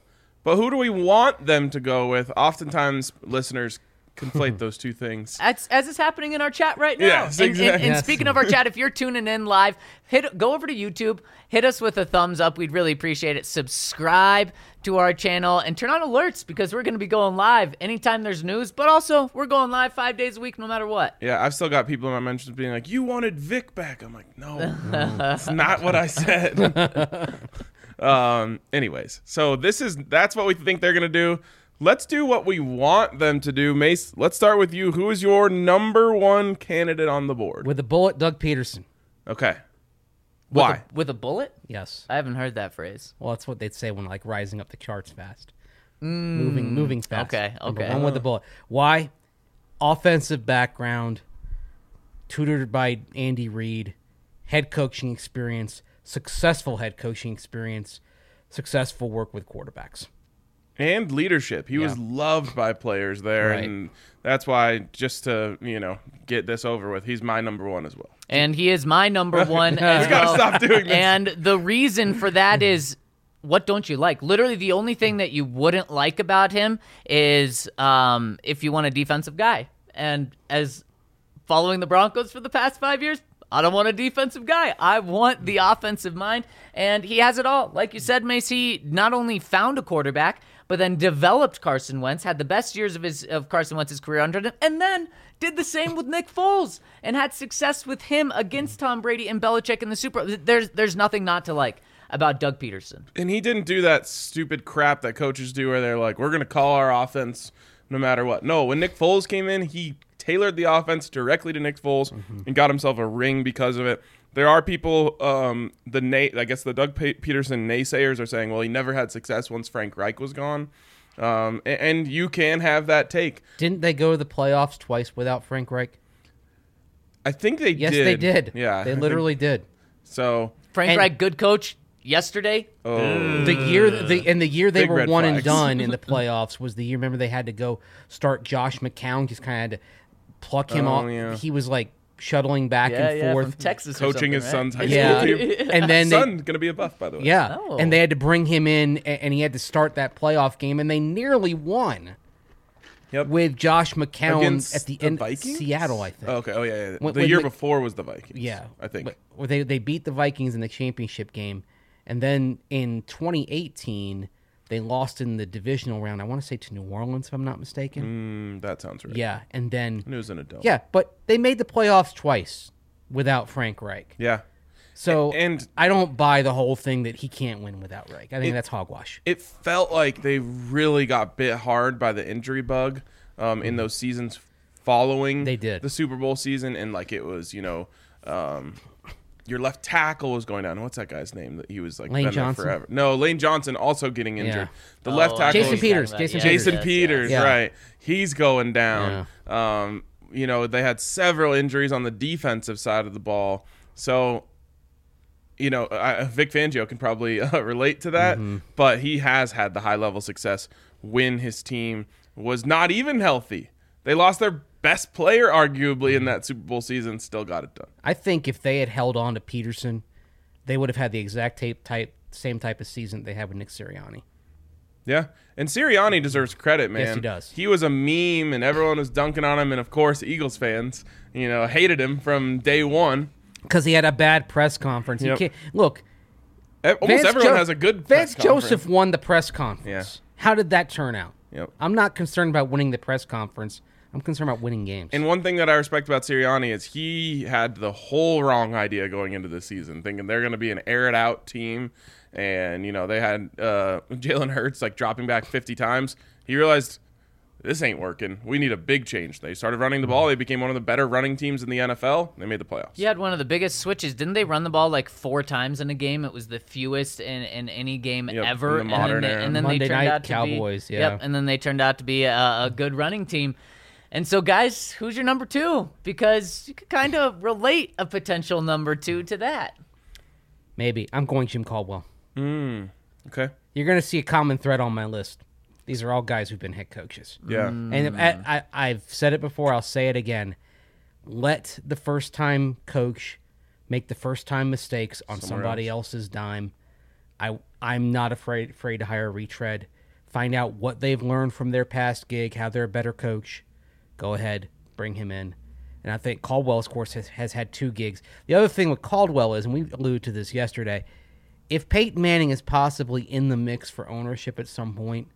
But who do we want them to go with? Oftentimes, listeners conflate those two things. As, as is happening in our chat right now. Yes, and, and, exactly. and Yes. speaking of our chat, if you're tuning in live, hit go over to YouTube, hit us with a thumbs up. We'd really appreciate it. Subscribe to our channel and turn on alerts because we're going to be going live anytime there's news. But also, we're going live five days a week, no matter what. Yeah, I've still got people in my mentions being like, "You wanted Vic back." I'm like, "No, that's not what I said." um. Anyways, so this is that's what we think they're gonna do. Let's do what we want them to do. Mace, let's start with you. Who is your number one candidate on the board? With the bullet, Doug Peterson. Okay. With Why? a, with a bullet? Yes. I haven't heard that phrase. Well, that's what they'd say when like rising up the charts fast. Moving moving fast. okay, Number okay. One with the bullet. Why? Offensive background, tutored by Andy Reid, head coaching experience, successful head coaching experience, successful work with quarterbacks. And leadership. He was Yeah. loved by players there, Right. and that's why, just to you know get this over with, he's my number one as well. And he is my number one as We gotta well. stop doing this. And the reason for that is, what don't you like? Literally, the only thing that you wouldn't like about him is um, if you want a defensive guy. And as following the Broncos for the past five years, I don't want a defensive guy. I want the offensive mind. And he has it all. Like you said, Mace, he not only found a quarterback, but then developed Carson Wentz, had the best years of his of Carson Wentz's career under him, and then did the same with Nick Foles and had success with him against Tom Brady and Belichick in the Super Bowl. There's there's nothing not to like about Doug Peterson. And he didn't do that stupid crap that coaches do where they're like, we're going to call our offense no matter what. No, when Nick Foles came in, he tailored the offense directly to Nick Foles Mm-hmm. and got himself a ring because of it. There are people, um, the na- I guess the Doug Pe- Peterson naysayers are saying, well, he never had success once Frank Reich was gone. Um, and, and you can have that take. Didn't they go to the playoffs twice without Frank Reich? I think they Yes, did. they did. Yeah. I They think- literally did. So, Frank And- Reich, good coach yesterday. oh. The year the and the year they Big were red one and flags. done in the playoffs was the year. Remember they had to go start Josh McCown. Just kind of had to pluck him Oh, off. yeah. He was like shuttling back Yeah, and yeah, forth. from Texas, or coaching something, his right? son's high Yeah, school team. and then they, Son, going to be a buff, by the way. yeah, Oh. and they had to bring him in, a- and he had to start that playoff game, and they nearly won Yep. with Josh McCown Against at the the end. Vikings? Seattle, I think. Oh, okay. Oh, yeah, yeah. When- the when year Mc- before was the Vikings. Yeah, I think. But- where they they beat the Vikings in the championship game, and then in twenty eighteen they lost in the divisional round. I want to say to New Orleans, if I'm not mistaken. Mm, that sounds right. Yeah, and then It was an adult. yeah, but they made the playoffs twice without Frank Reich. Yeah. So And- I don't buy the whole thing that he can't win without Reich. I think It- that's hogwash. It felt like they really got bit hard by the injury bug um, in those seasons following They did. the Super Bowl season. And like it was, you know, um, your left tackle was going down. What's that guy's name? That he was like Lane been there Johnson? forever. No, Lane Johnson also getting injured. The Oh, left I tackle know Jason what was- you're Peters, talking about. Jason Yeah, Jason yes, Peters, yes. Yeah. right? He's going down. Um, you know, they had several injuries on the defensive side of the ball. So, you know, I, Vic Fangio can probably uh, relate to that, Mm-hmm. but he has had the high level success when his team was not even healthy. They lost their best player, arguably, in that Super Bowl season, still got it done. I think if they had held on to Peterson, they would have had the exact tape type same type of season they had with Nick Sirianni. Yeah. And Sirianni deserves credit, man. Yes, he does. He was a meme, and everyone was dunking on him. And, of course, Eagles fans, you know, hated him from day one. Because he had a bad press conference. You Yep. can't look. E- Almost Vance everyone Jo- has a good Vance press conference. Joseph won the press conference. Yeah. How did that turn out? Yep. I'm not concerned about winning the press conference. I'm concerned about winning games. And one thing that I respect about Sirianni is he had the whole wrong idea going into the season, thinking they're going to be an air it out team. And, you know, they had uh, Jalen Hurts like dropping back fifty times. He realized this ain't working. We need a big change. They started running the ball. They became one of the better running teams in the N F L. They made the playoffs. You had one of the biggest switches. Didn't they run the ball like four times in a game? It was the fewest in, in any game Yep, ever. in the modern and then they, era. and then Monday they turned Night out to Cowboys, be, yeah. Yep, and then they turned out to be a, a good running team. And so, guys, who's your number two? Because you could kind of relate a potential number two to that. Maybe. I'm going Jim Caldwell. Okay. You're going to see a common thread on my list. These are all guys who've been head coaches. Yeah. And I, I, I've said it before, I'll say it again. Let the first time coach make the first time mistakes on Somewhere somebody else. else's dime. I I'm not afraid afraid to hire a retread. find out what they've learned from their past gig, how they're a better coach. Go ahead, bring him in. And I think Caldwell, of course, has, has had two gigs. The other thing with Caldwell is, and we alluded to this yesterday, if Peyton Manning is possibly in the mix for ownership at some point,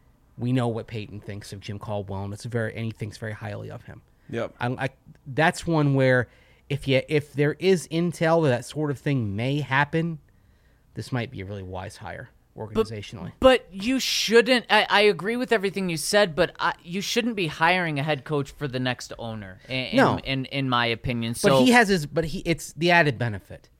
we know what Peyton thinks of Jim Caldwell, and it's very, and he thinks very highly of him. Yep. I, I, that's one where if you if there is intel that that sort of thing may happen, this might be a really wise hire organizationally. But, but you shouldn't. I, I agree with everything you said, but I, you shouldn't be hiring a head coach for the next owner. In, No. in, in in my opinion. So But he has his. But he it's the added benefit.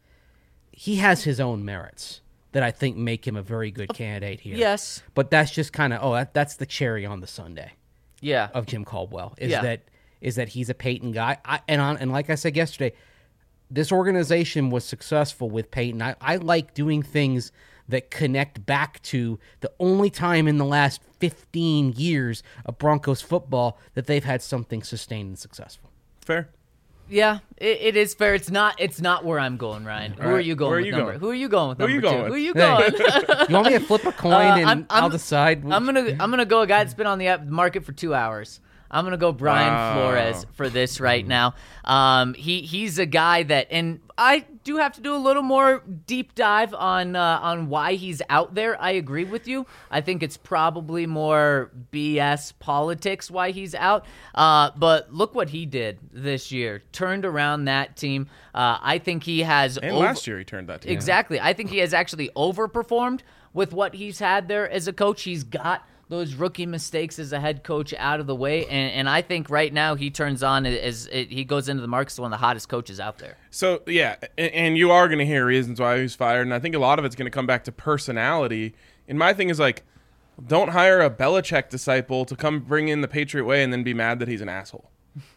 He has his own merits that I think make him a very good candidate here. yes, But that's just kind of oh that, that's the cherry on the sundae yeah, of Jim Caldwell is Yeah. that is that he's a Peyton guy. I, and on and like I said yesterday, this organization was successful with Peyton. I, I like doing things that connect back to the only time in the last fifteen years of Broncos football that they've had something sustained and successful. Fair. yeah. It, it is fair. It's not. It's not where I'm going, Ryan. Who All are right. you going Where are with you number? going? Who are you going with Who are number you two? going with? Who are you Hey. going? You want me to flip a coin Uh, and I'm- I'm- I'll decide? I'm gonna I'm gonna go a guy that's been on the app- market for two hours. I'm gonna go Brian Wow. Flores for this right now. Um, he he's a guy that, and I do have to do a little more deep dive on uh, on why he's out there. I agree with you. I think it's probably more B S politics why he's out. Uh, but look what he did this year. Turned around that team. Uh, I think he has. And over- last year he turned that team. Exactly. I think he has actually overperformed with what he's had there as a coach. He's got those rookie mistakes as a head coach out of the way, and, and I think right now he turns on as it, he goes into the market as one of the hottest coaches out there. So, yeah, and, and you are going to hear reasons why he was fired, and I think a lot of it's going to come back to personality. And my thing is, like, don't hire a Belichick disciple to come bring in the Patriot way and then be mad that he's an asshole.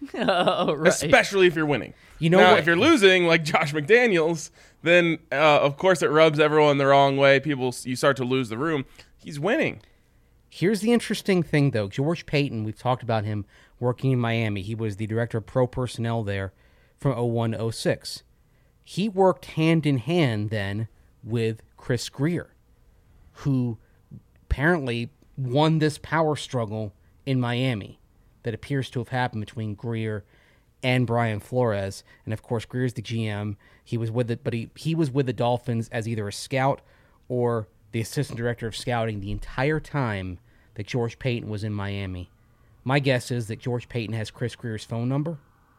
Oh, right. Especially if you're winning. You know now, what- if you're losing, like Josh McDaniels, then, uh, of course, it rubs everyone the wrong way. People, you start to lose the room. He's winning. Here's the interesting thing, though. George Payton, we've talked about him working in Miami. He was the director of pro personnel there from oh one to oh six. He worked hand in hand then with Chris Grier, who apparently won this power struggle in Miami that appears to have happened between Grier and Brian Flores. And, of course, Grier's the G M. He was with it, but he, he was with the Dolphins as either a scout or the assistant director of scouting the entire time that George Payton was in Miami. My guess is that George Payton has Chris Grier's phone number,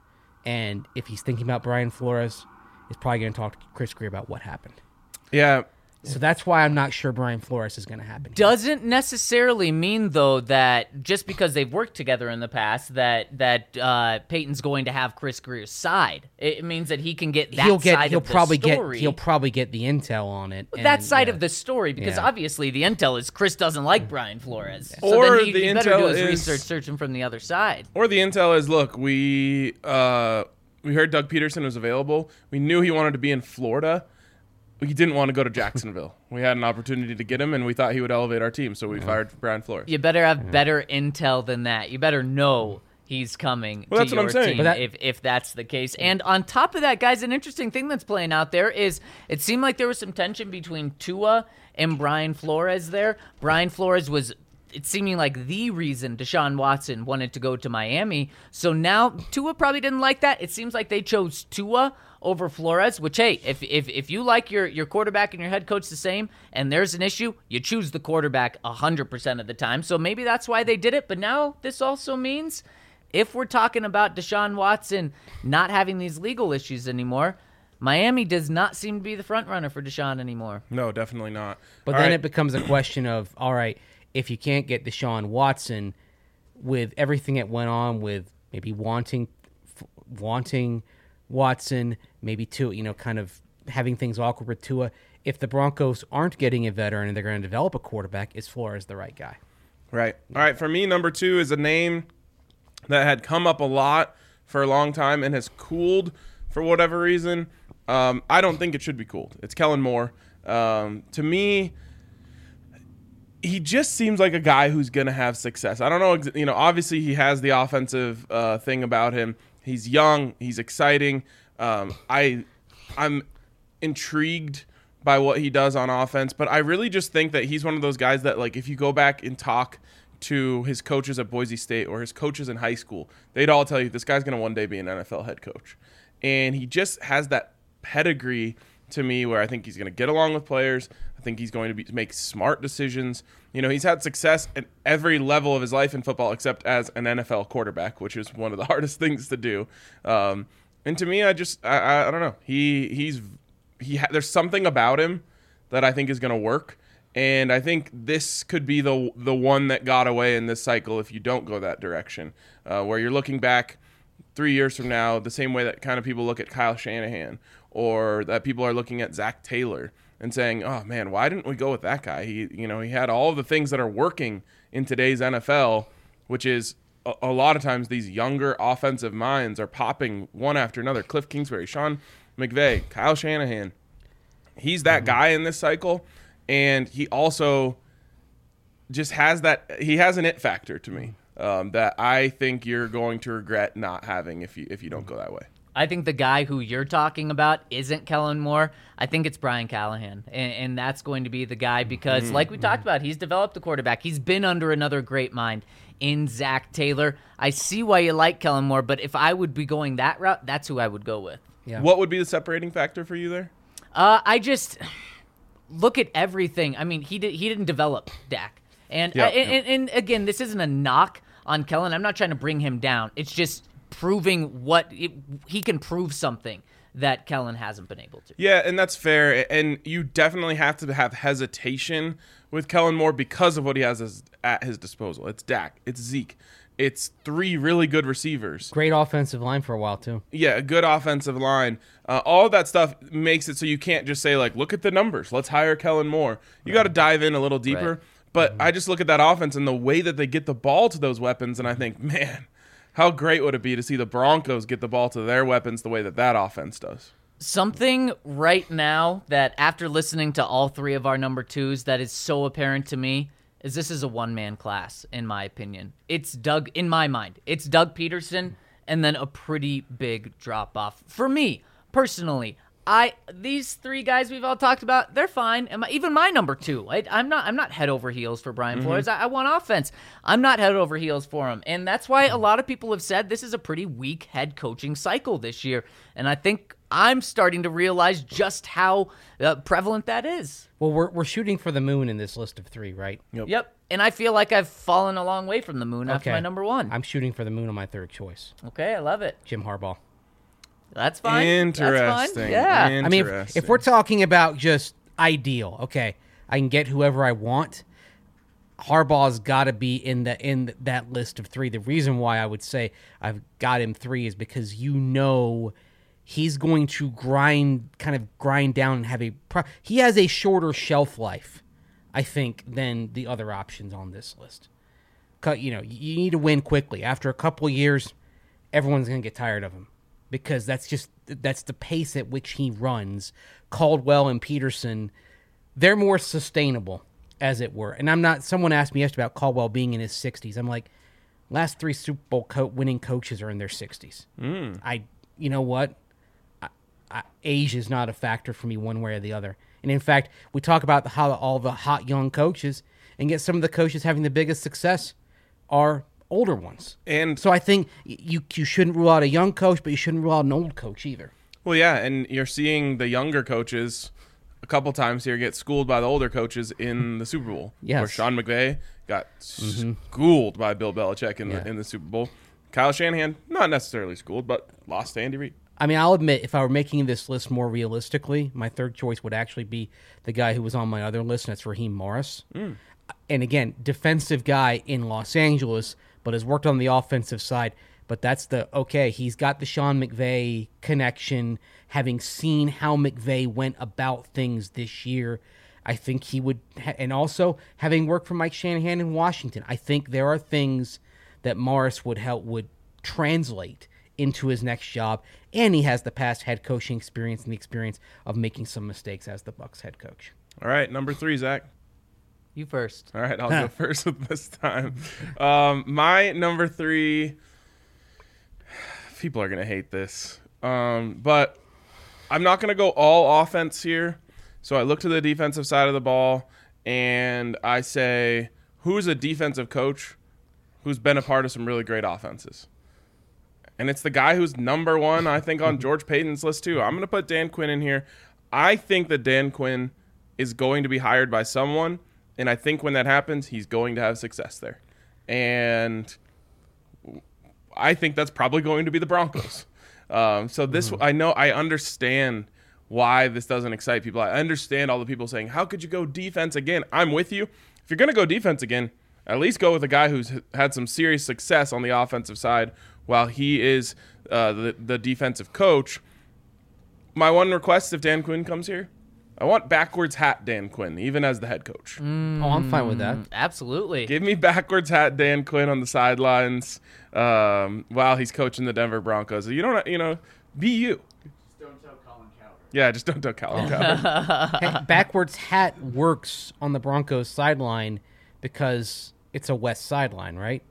and if he's thinking about Brian Flores, he's probably going to talk to Chris Grier about what happened. Yeah. So that's why I'm not sure Brian Flores is going to happen. Doesn't necessarily mean though that just because they've worked together in the past that that uh, Peyton's going to have Chris Grier's side. It means that he can get that he'll get side he'll of the probably story. get he'll probably get the intel on it. and, that side yeah. of the story, because Yeah. obviously the intel is Chris doesn't like Brian Flores. So Or then he, the he better do intel his is- research searching from the other side. Or the intel is, look, we uh, we heard Doug Peterson was available. We knew he wanted to be in Florida. We didn't want to go to Jacksonville. We had an opportunity to get him, and we thought he would elevate our team, so we fired Brian Flores. You better have better intel than that. You better know he's coming Well, to that's what your I'm saying. team But that- if, if that's the case. And on top of that, guys, an interesting thing that's playing out there is it seemed like there was some tension between Tua and Brian Flores there. Brian Flores was it's seeming like the reason Deshaun Watson wanted to go to Miami. So now Tua probably didn't like that. It seems like they chose Tua over Flores, which, hey, if if if you like your, your quarterback and your head coach the same and there's an issue, you choose the quarterback one hundred percent of the time. So maybe that's why they did it. But now this also means if we're talking about Deshaun Watson not having these legal issues anymore, Miami does not seem to be the front runner for Deshaun anymore. No, definitely not. But All then right. it becomes a question of, all right, if you can't get Deshaun Watson, with everything that went on with maybe wanting f- wanting Watson, maybe Tua, you know, kind of having things awkward with Tua, if the Broncos aren't getting a veteran and they're going to develop a quarterback, is Flores the right guy? Right. All right. For me, number two is a name that had come up a lot for a long time and has cooled for whatever reason. Um, I don't think it should be cooled. It's Kellen Moore. Um, to me, he just seems like a guy who's going to have success. I don't know. ex- You know, obviously he has the offensive uh, thing about him. He's young. He's exciting. Um, I, I'm intrigued by what he does on offense, but I really just think that he's one of those guys that, like, if you go back and talk to his coaches at Boise State or his coaches in high school, they'd all tell you this guy's going to one day be an N F L head coach. And he just has that pedigree to me where I think he's going to get along with players. I think he's going to be, make smart decisions. You know, he's had success at every level of his life in football except as an N F L quarterback, which is one of the hardest things to do. Um, and to me, I just, I, I, I don't know. He, he's, he, ha- there's something about him that I think is going to work. And I think this could be the the one that got away in this cycle if you don't go that direction, uh, where you're looking back three years from now the same way that kind of people look at Kyle Shanahan, or that people are looking at Zach Taylor and saying, oh, man, why didn't we go with that guy? He, you know, he had all of the things that are working in today's N F L, which is a, a lot of times these younger offensive minds are popping one after another. Cliff Kingsbury, Sean McVay, Kyle Shanahan. He's that mm-hmm. guy in this cycle. And he also just has that – he has an it factor to me um, that I think you're going to regret not having if you if you don't go that way. I think the guy who you're talking about isn't Kellen Moore. I think it's Brian Callahan, and, and that's going to be the guy because, mm-hmm. like we talked about, he's developed a quarterback. He's been under another great mind in Zach Taylor. I see why you like Kellen Moore, but if I would be going that route, that's who I would go with. Yeah. What would be the separating factor for you there? Uh, I just – look at everything. I mean, he did, he didn't develop Dak. And, yeah, uh, and, yeah. and and again, this isn't a knock on Kellen. I'm not trying to bring him down. It's just proving what it, he can prove something that Kellen hasn't been able to. Yeah, and that's fair. And you definitely have to have hesitation with Kellen Moore because of what he has as, at his disposal. It's Dak. It's Zeke. It's three really good receivers. Great offensive line for a while, too. Yeah, a good offensive line. Uh, all of that stuff makes it so you can't just say, like, look at the numbers. Let's hire Kellen Moore. You right. got to dive in a little deeper. Right. But mm-hmm. I just look at that offense and the way that they get the ball to those weapons, and I think, man, how great would it be to see the Broncos get the ball to their weapons the way that that offense does. Something right now that after listening to all three of our number twos that is so apparent to me is this is a one-man class, in my opinion. It's Doug, in my mind, it's Doug Peterson and then a pretty big drop-off. For me, personally, I these three guys we've all talked about, they're fine. And my, even my number two, I, I'm not I'm not head over heels for Brian mm-hmm. Flores. I, I want offense. I'm not head over heels for him. And that's why a lot of people have said this is a pretty weak head coaching cycle this year. And I think I'm starting to realize just how uh, prevalent that is. Well, we're we're shooting for the moon in this list of three, right? Yep. Yep. And I feel like I've fallen a long way from the moon after Okay. my number one. I'm shooting for the moon on my third choice. Okay, I love it. Jim Harbaugh. That's fine. Interesting. That's fine. Yeah. I mean, if, if we're talking about just ideal, okay, I can get whoever I want. Harbaugh's got to be in the in that list of three. The reason why I would say I've got him three is because you know he's going to grind, kind of grind down and have a. Pro- he has a shorter shelf life, I think, than the other options on this list. You know, you need to win quickly. After a couple of years, everyone's going to get tired of him. Because that's just that's the pace at which he runs. Caldwell and Peterson, they're more sustainable, as it were. And I'm not. Someone asked me yesterday about Caldwell being in his sixties. I'm like, last three Super Bowl co- winning coaches are in their sixties. Mm. I, you know what? I, I, age is not a factor for me one way or the other. And in fact, we talk about the, how all the hot young coaches, and get some of the coaches having the biggest success are older ones. And so I think you you shouldn't rule out a young coach, but you shouldn't rule out an old coach either. Well, yeah, and you're seeing the younger coaches a couple times here get schooled by the older coaches in the Super Bowl. Yes. Where Sean McVay got Mm-hmm. schooled by Bill Belichick in Yeah. the in the Super Bowl. Kyle Shanahan, not necessarily schooled, but lost to Andy Reid. I mean, I'll admit, if I were making this list more realistically, my third choice would actually be the guy who was on my other list, and that's Raheem Morris. Mm. And again, defensive guy in Los Angeles, but has worked on the offensive side. But that's the, okay, he's got the Sean McVay connection, having seen how McVay went about things this year. I think he would, ha- and also having worked for Mike Shanahan in Washington, I think there are things that Morris would help, would translate into his next job. And he has the past head coaching experience and the experience of making some mistakes as the Bucs head coach. All right, number three, Zach. You first. All right, I'll go first with this time. Um, my number three, people are going to hate this, um, but I'm not going to go all offense here So I look to the defensive side of the ball, and I say, who's a defensive coach who's been a part of some really great offenses? And it's the guy who's number one, I think, on George Payton's list, too. I'm going to put Dan Quinn in here. I think that Dan Quinn is going to be hired by someone, and I think when that happens, he's going to have success there. And I think that's probably going to be the Broncos. Um, so this, mm-hmm. I know, I understand why this doesn't excite people. I understand all the people saying, how could you go defense again? I'm with you. If you're going to go defense again, at least go with a guy who's had some serious success on the offensive side while he is uh, the, the defensive coach. My one request, if Dan Quinn comes here, I want backwards hat Dan Quinn, even as the head coach. Mm, oh, I'm fine with that. Absolutely. Give me backwards hat Dan Quinn on the sidelines um, while he's coaching the Denver Broncos. You don't, you know, be you. Just don't tell Colin Cowherd. Yeah, just don't tell Colin Cowherd. Hey, backwards hat works on the Broncos sideline because it's a west sideline, right?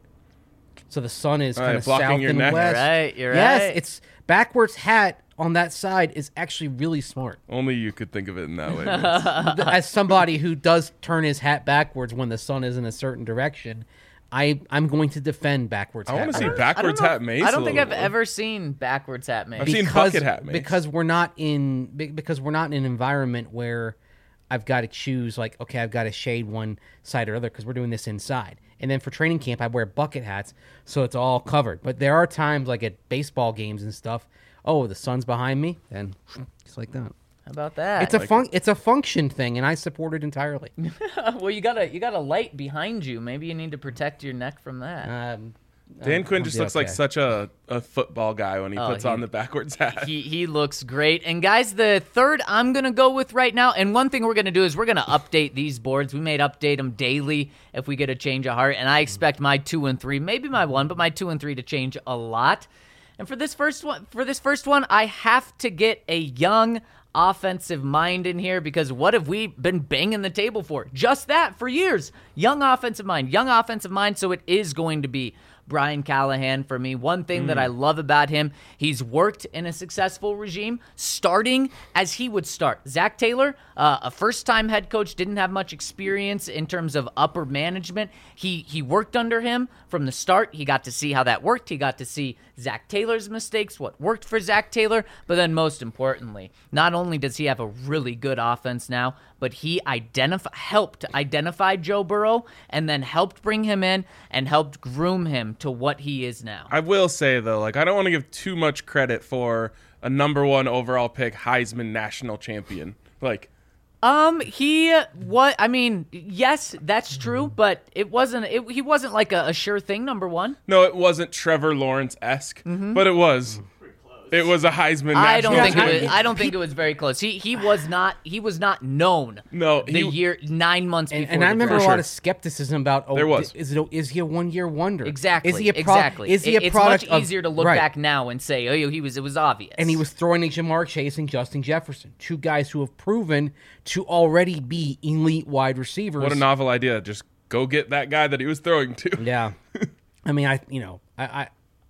So the sun is All kind right, of blocking south your and neck. west. You're right, you're yes, right. it's backwards hat on that side is actually really smart. Only you could think of it in that way. Vince. As somebody who does turn his hat backwards when the sun is in a certain direction, I I'm going to defend backwards I hat. want to see don't- backwards I don't know hat if- Mace. I don't a think little I've more. ever seen backwards hat Mace. I've seen bucket hat Mace. because we're not in be- because we're not in an environment where I've got to choose like okay I've got to shade one side or other because we're doing this inside. And then for training camp I wear bucket hats so it's all covered. But there are times like at baseball games and stuff. Oh, the sun's behind me, and just like that. How about that? It's a fun it's a function thing, and I support it entirely. well, you got a you got a light behind you. Maybe you need to protect your neck from that. Um, Dan I'll- Quinn I'll just be looks like okay. such a, a football guy when he Oh, puts he- on the backwards hat. He he looks great. And guys, the third I'm going to go with right now, and one thing we're going to do is we're going to update these boards. We may update them daily if we get a change of heart, and I expect my two and three, maybe my one, but my two and three to change a lot. And for this first one, for this first one, I have to get a young offensive mind in here because what have we been banging the table for? Just that for years. Young offensive mind, young offensive mind. So it is going to be Brian Callahan for me. One thing mm. that I love about him, he's worked in a successful regime, starting as he would start. Zach Taylor, uh, a first-time head coach, didn't have much experience in terms of upper management. He he worked under him from the start. He got to see how that worked. He got to see Zach Taylor's mistakes, what worked for Zach Taylor. But then most importantly, not only does he have a really good offense now, but he identif- helped identify Joe Burrow and then helped bring him in and helped groom him to what he is now. I will say, though, like I don't want to give too much credit for a number one overall pick Heisman national champion. Like, Um, he what? I mean, yes, that's true, but it wasn't. It, he wasn't like a, a sure thing. Number one. no, it wasn't Trevor Lawrence-esque, but it was. It was a Heisman I don't national think it champion. was. I don't think it was very close. He he was not. He was not known. No, the he- year nine months And, before. and I the remember a draft. lot sure. of skepticism about. Oh, There was. Is it? A, is he a one-year wonder? Exactly. Is he a pro- exactly. Is he a It- it's product much of- easier to look right. back now and say, oh, he was. It was obvious. And he was throwing at Jamar Chase and Justin Jefferson, two guys who have proven to already be elite wide receivers. What a novel idea. Just go get that guy that he was throwing to. Yeah, I mean, I you know, I, I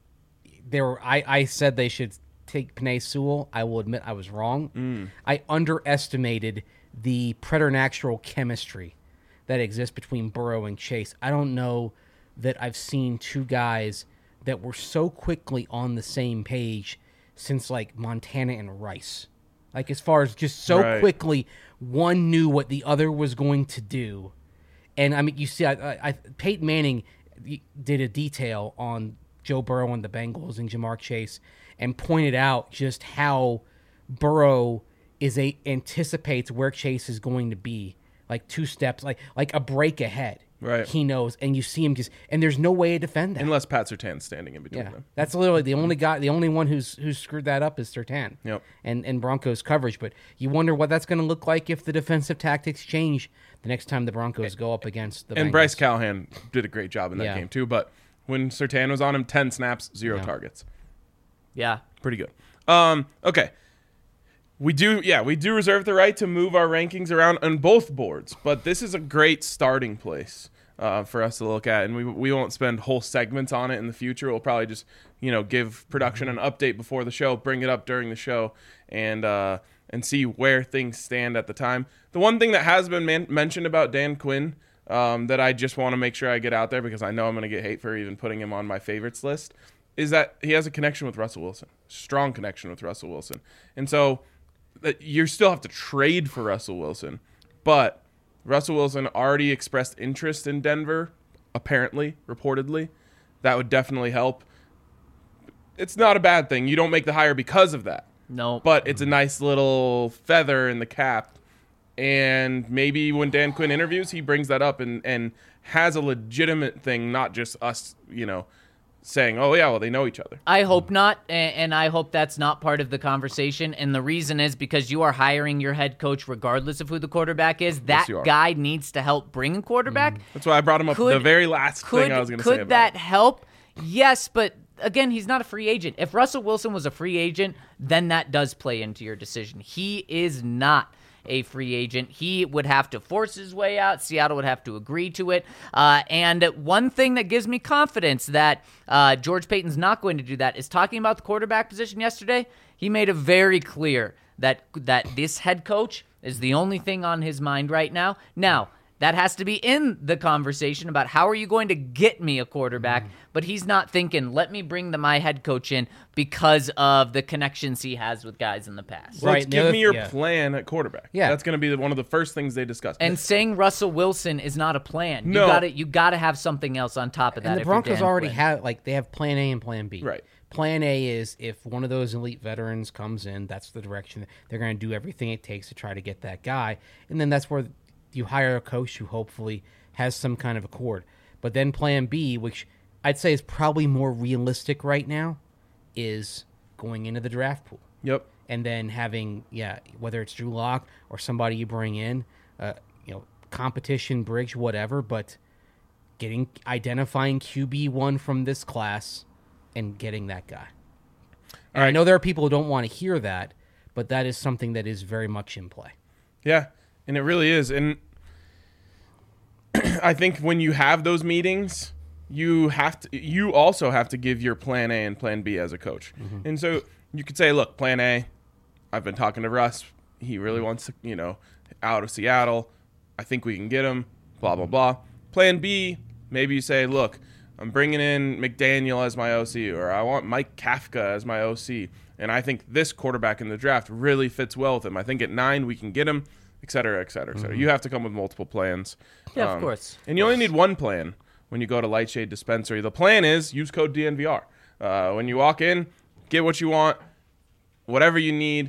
there were I, I said they should take Penei Sewell. I will admit I was wrong. Mm. I underestimated the preternatural chemistry that exists between Burrow and Chase. I don't know that I've seen two guys that were so quickly on the same page since like Montana and Rice. Like as far as just so Right. quickly, one knew what the other was going to do. And I mean, you see, I, I, I, Peyton Manning did a detail on Joe Burrow and the Bengals and Jamar Chase, and pointed out just how Burrow is a anticipates where Chase is going to be, like two steps, like like a break ahead. Right. He knows, and you see him just, and there's no way to defend that. Unless Pat Surtain's standing in between Yeah, them. that's literally the only guy, the only one who's who's screwed that up is Surtain. Yep. And and Broncos coverage, but you wonder what that's going to look like if the defensive tactics change the next time the Broncos go up against the And Bengals. Bryce Callahan did a great job in that Yeah. game too. But when Surtain was on him, ten snaps, zero Yeah. targets. Yeah. Pretty good. Um, okay. We do, yeah, we do reserve the right to move our rankings around on both boards, but this is a great starting place. uh, for us to look at, and we we won't spend whole segments on it in the future. We'll probably just you know give production an update before the show, bring it up during the show, and uh, and see where things stand at the time. The one thing that has been man- mentioned about Dan Quinn um, that I just want to make sure I get out there, because I know I'm going to get hate for even putting him on my favorites list, is that he has a connection with Russell Wilson, strong connection with Russell Wilson, and so that you still have to trade for Russell Wilson, but Russell Wilson already expressed interest in Denver, apparently, reportedly. That would definitely help. It's not a bad thing. You don't make the hire because of that. No. But it's a nice little feather in the cap. And maybe when Dan Quinn interviews, he brings that up and, and has a legitimate thing, not just us, you know, saying, oh, yeah, well, they know each other. I hope not, and I hope that's not part of the conversation. And the reason is because you are hiring your head coach regardless of who the quarterback is. That Yes, guy needs to help bring a quarterback. That's why I brought him up. Could- the very last Could, thing I was going to say could about that it. help? Yes, but again, he's not a free agent. If Russell Wilson was a free agent, then that does play into your decision. He is not a free agent. He would have to force his way out. Seattle would have to agree to it. Uh, and one thing that gives me confidence that uh, George Paton's not going to do that is talking about the quarterback position yesterday. He made it very clear that that this head coach is the only thing on his mind right now. Now, that has to be in the conversation about how are you going to get me a quarterback, but he's not thinking, let me bring the, my head coach in because of the connections he has with guys in the past. Let's Right, give the me your other- yeah. plan at quarterback. Yeah. That's going to be the, one of the first things they discuss. And saying Russell Wilson is not a plan. No. You got to you got to have something else on top of that. And the if you're Broncos Dan already Quinn. have, like, they have plan A and plan B. Right. Plan A is if one of those elite veterans comes in, that's the direction. They're going to do everything it takes to try to get that guy. And then that's where you hire a coach who hopefully has some kind of accord. But then plan B, which I'd say is probably more realistic right now, is going into the draft pool. Yep. And then having, yeah, whether it's Drew Lock or somebody you bring in, uh, you know, competition, bridge, whatever, but getting, identifying Q B one from this class and getting that guy. And I know there are people who don't want to hear that, but that is something that is very much in play. Yeah, and it really is. And I think when you have those meetings, you have to. You also have to give your plan A and plan B as a coach. Mm-hmm. And so you could say, look, plan A, I've been talking to Russ. He really wants to, you know, out of Seattle. I think we can get him, blah, blah, blah. Plan B, maybe you say, look, I'm bringing in McDaniel as my O C, or I want Mike Kafka as my O C, and I think this quarterback in the draft really fits well with him. I think at nine we can get him, et cetera, et cetera, et cetera. You have to come with multiple plans. Yeah, of Um, course. And you only need one plan when you go to Lightshade Dispensary. The plan is use code D N V R. Uh, when you walk in, get what you want, whatever you need,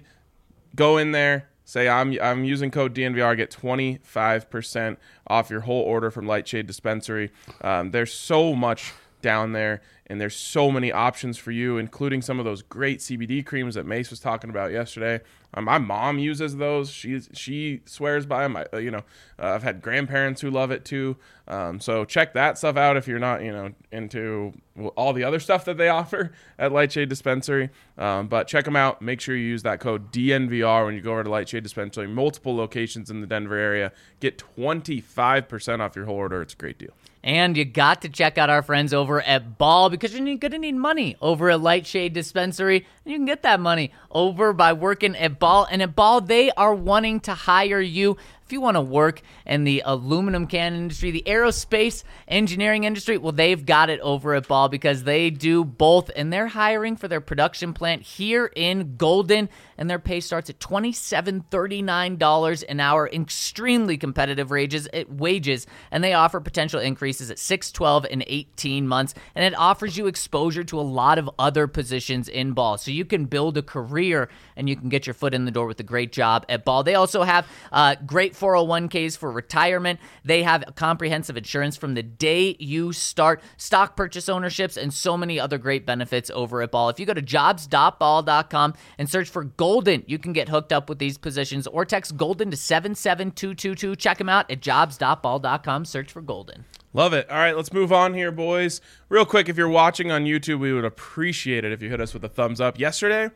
go in there. Say, I'm I'm using code D N V R, get twenty-five percent off your whole order from Lightshade Dispensary. Um, there's so much down there, and there's so many options for you, including some of those great C B D creams that Mace was talking about yesterday. Um, my mom uses those. She she swears by them. I, uh, you know, uh, I've had grandparents who love it too. Um, so check that stuff out if you're not, you know, into all the other stuff that they offer at Lightshade Dispensary. Um, but check them out. Make sure you use that code D N V R when you go over to Lightshade Dispensary. Multiple locations in the Denver area. Get twenty-five percent off your whole order. It's a great deal. And you got to check out our friends over at Ball because you're going to need money over at Lightshade Dispensary. And you can get that money over by working at Ball. And at Ball, they are wanting to hire you. If you want to work in the aluminum can industry, the aerospace engineering industry, well, they've got it over at Ball because they do both. And they're hiring for their production plant here in Golden. And their pay starts at twenty-seven dollars and thirty-nine cents an hour. Extremely competitive wages, wages. And they offer potential increases at six, twelve, and eighteen months. And it offers you exposure to a lot of other positions in Ball. So you can build a career and you can get your foot in the door with a great job at Ball. They also have uh, great four oh one k's for retirement. They have comprehensive insurance from the day you start, stock purchase ownerships, and so many other great benefits over at Ball. If you go to jobs dot ball dot com and search for Golden, you can get hooked up with these positions or text Golden to seven seven two two two. Check them out at jobs dot ball dot com. Search for Golden. Love it. All right, let's move on here, boys. Real quick, if you're watching on YouTube, we would appreciate it if you hit us with a thumbs up. Yesterday,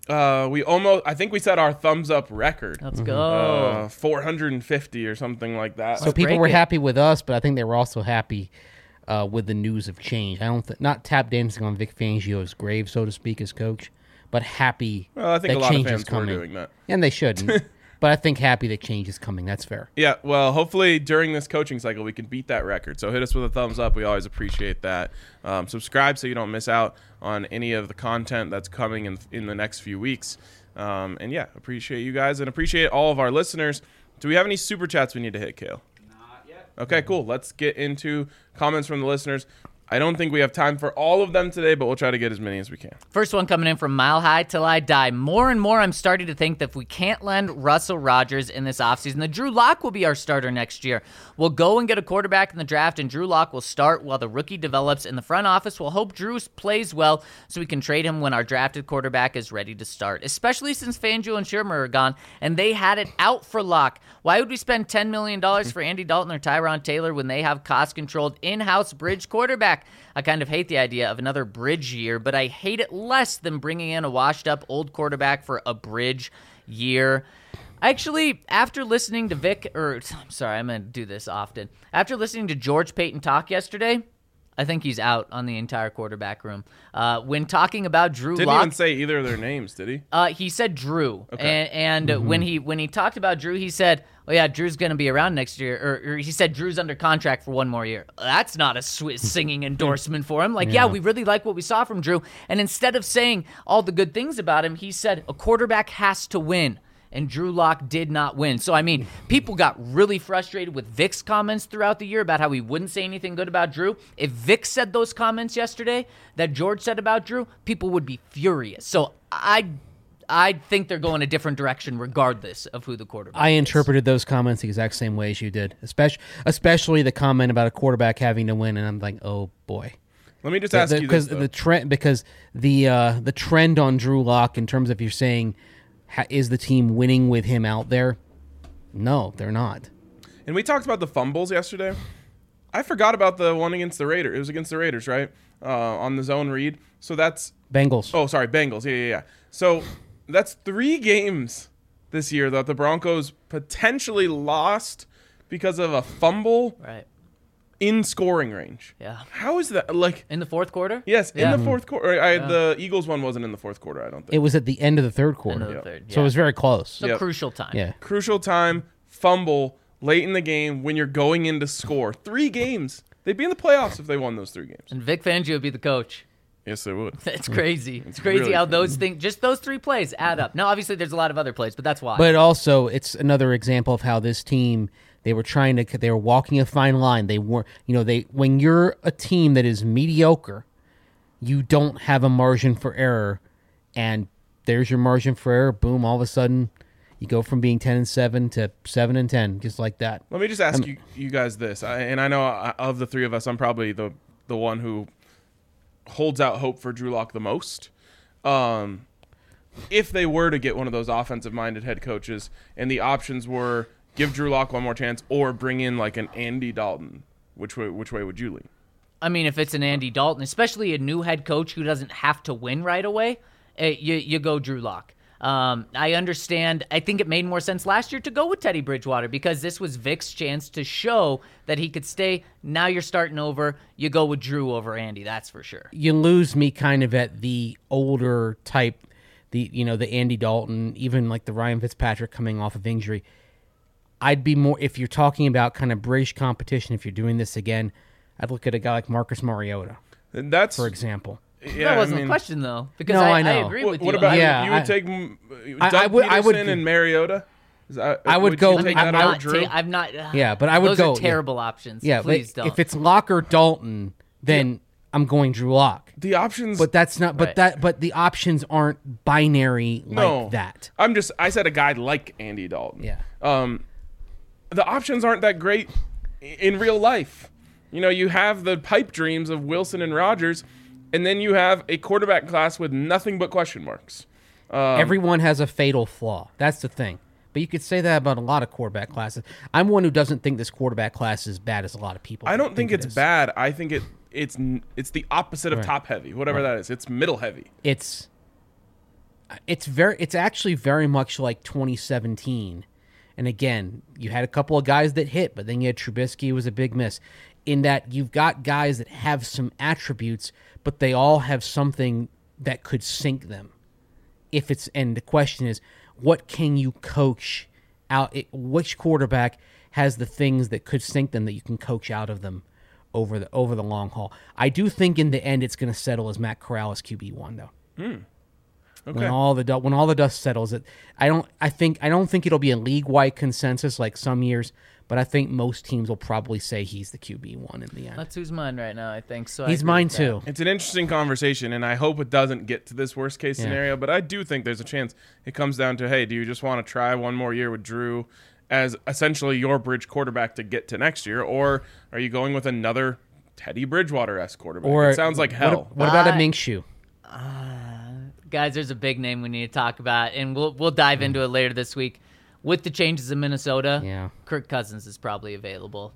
Uh, we almost, I think we set our thumbs up record. Let's go. Uh, four hundred fifty or something like that. So Let's people break were it. happy with us, but I think they were also happy uh, with the news of change. I don't th- not tap dancing on Vic Fangio's grave, so to speak, as coach, but happy Well, I think that a lot of change fans is were coming. doing that. And they shouldn't. But I think happy that change is coming. That's fair. Yeah, well, hopefully during this coaching cycle we can beat that record. So hit us with a thumbs up. We always appreciate that. Um, subscribe so you don't miss out on any of the content that's coming in in the next few weeks. Um, and yeah, appreciate you guys and appreciate all of our listeners. Do we have any super chats we need to hit, Kale? Not yet. Okay, cool. Let's get into comments from the listeners. I don't think we have time for all of them today, but we'll try to get as many as we can. First one coming in from Mile High Till I Die. More and more, I'm starting to think that if we can't land Russell Rodgers in this offseason, that Drew Lock will be our starter next year. We'll go and get a quarterback in the draft, and Drew Lock will start while the rookie develops. In the front office, we'll hope Drew plays well so we can trade him when our drafted quarterback is ready to start, especially since Fangio and Shermer are gone, and they had it out for Lock. Why would we spend ten million dollars for Andy Dalton or Tyron Taylor when they have cost-controlled in-house bridge quarterback? I kind of hate the idea of another bridge year, but I hate it less than bringing in a washed-up old quarterback for a bridge year. Actually, after listening to Vic, or I'm sorry, I'm going to do this often. After listening to George Payton talk yesterday, I think he's out on the entire quarterback room. Uh, when talking about Drew Didn't Lock, even say either of their names, did he? uh, he said Drew, Okay. and, and when he when he talked about Drew, he said, "Oh yeah, Drew's going to be around next year," or, or he said Drew's under contract for one more year. That's not a sweet singing endorsement for him. Like, yeah. Yeah. we really like what we saw from Drew, and instead of saying all the good things about him, he said a quarterback has to win. And Drew Lock did not win. So, I mean, people got really frustrated with Vic's comments throughout the year about how he wouldn't say anything good about Drew. If Vic said those comments yesterday that George said about Drew, people would be furious. So, I I think they're going a different direction regardless of who the quarterback I is. interpreted those comments the exact same way as you did, especially especially the comment about a quarterback having to win, and I'm like, oh boy. Let me just ask you this, Because though. the trend, because the uh, the trend on Drew Lock in terms of you're saying, ha, is the team winning with him out there? No, they're not. And we talked about the fumbles yesterday. I forgot about the one against the Raiders. It was against the Raiders, right? Uh, on the zone read. So that's... Bengals. Oh, sorry, Bengals. Yeah, yeah, yeah. So that's three games this year that the Broncos potentially lost because of a fumble Right. in scoring range. Yeah. How is that? Like, In the fourth quarter? yes, Yeah. in the fourth quarter. I, The Eagles one wasn't in the fourth quarter, I don't think. It was at the end of the third quarter, End of the Yeah. third. so it was very close. So Yep. crucial time. Yeah. Crucial time, fumble, late in the game when you're going in to score. Three games. They'd be in the playoffs if they won those three games. And Vic Fangio would be the coach. Yes, they would. It's crazy. It's crazy really how crazy. those things, just those three plays add up. Now, obviously, there's a lot of other plays, but that's why. But also, it's another example of how this team, they were trying to, they were walking a fine line. They weren't, you know, they, when you're a team that is mediocre, you don't have a margin for error, and there's your margin for error. Boom, all of a sudden, you go from being ten and seven to seven and ten, just like that. Let me just ask you, you guys this, I, and I know I, of the three of us, I'm probably the the one who holds out hope for Drew Lock the most. Um, if they were to get one of those offensive-minded head coaches, and the options were give Drew Lock one more chance or bring in like an Andy Dalton, which way which way would you lean? I mean, if it's an Andy Dalton, especially a new head coach who doesn't have to win right away, eh, you you go Drew Lock. Um, I understand. I think it made more sense last year to go with Teddy Bridgewater because this was Vic's chance to show that he could stay. Now you're starting over. You go with Drew over Andy. That's for sure. You lose me kind of at the older type, the you know the Andy Dalton, even like the Ryan Fitzpatrick coming off of injury. I'd be more, if you're talking about kind of British competition, if you're doing this again, I'd look at a guy like Marcus Mariota, And that's for example. yeah, that wasn't I mean, the question though, because No, I, I know. agree What, with what you. about I- Yeah, you? Would I- take mm, I- Doug I would- I would- Peterson and Mariota. Is that, I would you go- take I'm that not over Drew? ta- I'm not. Yeah, but I would those go- are terrible options. Yeah, Please but don't. if it's Locke or Dalton, then I'm going Drew Lock. the options, But that's not. But Right. that. But the options aren't binary no, like that. I'm just. I said a guy like Andy Dalton. Yeah. Um, the options aren't that great i- in real life. You know, you have the pipe dreams of Wilson and Rodgers, and then you have a quarterback class with nothing but question marks. Um, Everyone has a fatal flaw. That's the thing. But you could say that about a lot of quarterback classes. I'm one who doesn't think this quarterback class is as bad as a lot of people. I don't think, it it's is. bad. I think it it's n- it's the opposite of Right. top heavy, whatever Right. that is. It's middle heavy. It's It's very. It's actually very much like twenty seventeen. And again, you had a couple of guys that hit, but then you had Trubisky, who was a big miss. In that you've got guys that have some attributes, but they all have something that could sink them. If it's and the question is, what can you coach out? It, which quarterback has the things that could sink them that you can coach out of them over the over the long haul? I do think in the end it's going to settle as Matt Corral as Q B one though. Hmm. Okay. When all the du- when all the dust settles, it I don't I think I don't think it'll be a league wide consensus like some years, but I think most teams will probably say he's the Q B one in the end. That's who's mine right now, I think. So I He's agree mine with that. too. It's an interesting conversation, and I hope it doesn't get to this worst case Yeah. scenario, but I do think there's a chance it comes down to, hey, do you just want to try one more year with Drew as essentially your bridge quarterback to get to next year, or are you going with another Teddy Bridgewater-esque quarterback? Or it sounds like hell. What, what about a I- Minshew? Guys, there's a big name we need to talk about, and we'll we'll dive into it later this week. With the changes in Minnesota, Yeah. Kirk Cousins is probably available.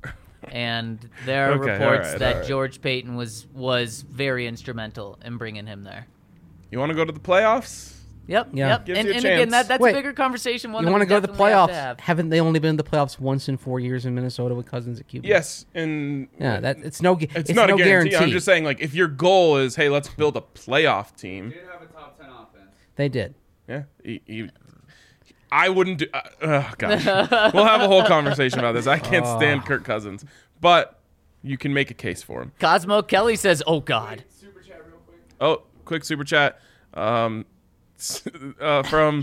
And there are Okay, reports all right, that all right. George Payton was was very instrumental in bringing him there. You want to go to the playoffs? Yep, Yeah. yep. Gives and you a and again, chance. that, that's Wait, a bigger conversation. One You that want we to go to the definitely have playoffs? to have. Haven't they only been in the playoffs once in four years in Minnesota with Cousins at Q B? Yes, and Yeah, that it's no. gu- it's, It's, not no a guarantee. guarantee. I'm just saying, like, if your goal is, hey, let's build a playoff team, Did have a top ten offense. They did. yeah, you, you, I wouldn't do. Uh, oh gosh, we'll have a whole conversation about this. I can't stand Kirk Cousins, but you can make a case for him. Cosmo Kelly says, "Oh God." Super chat real quick. Oh, quick super chat um, uh, from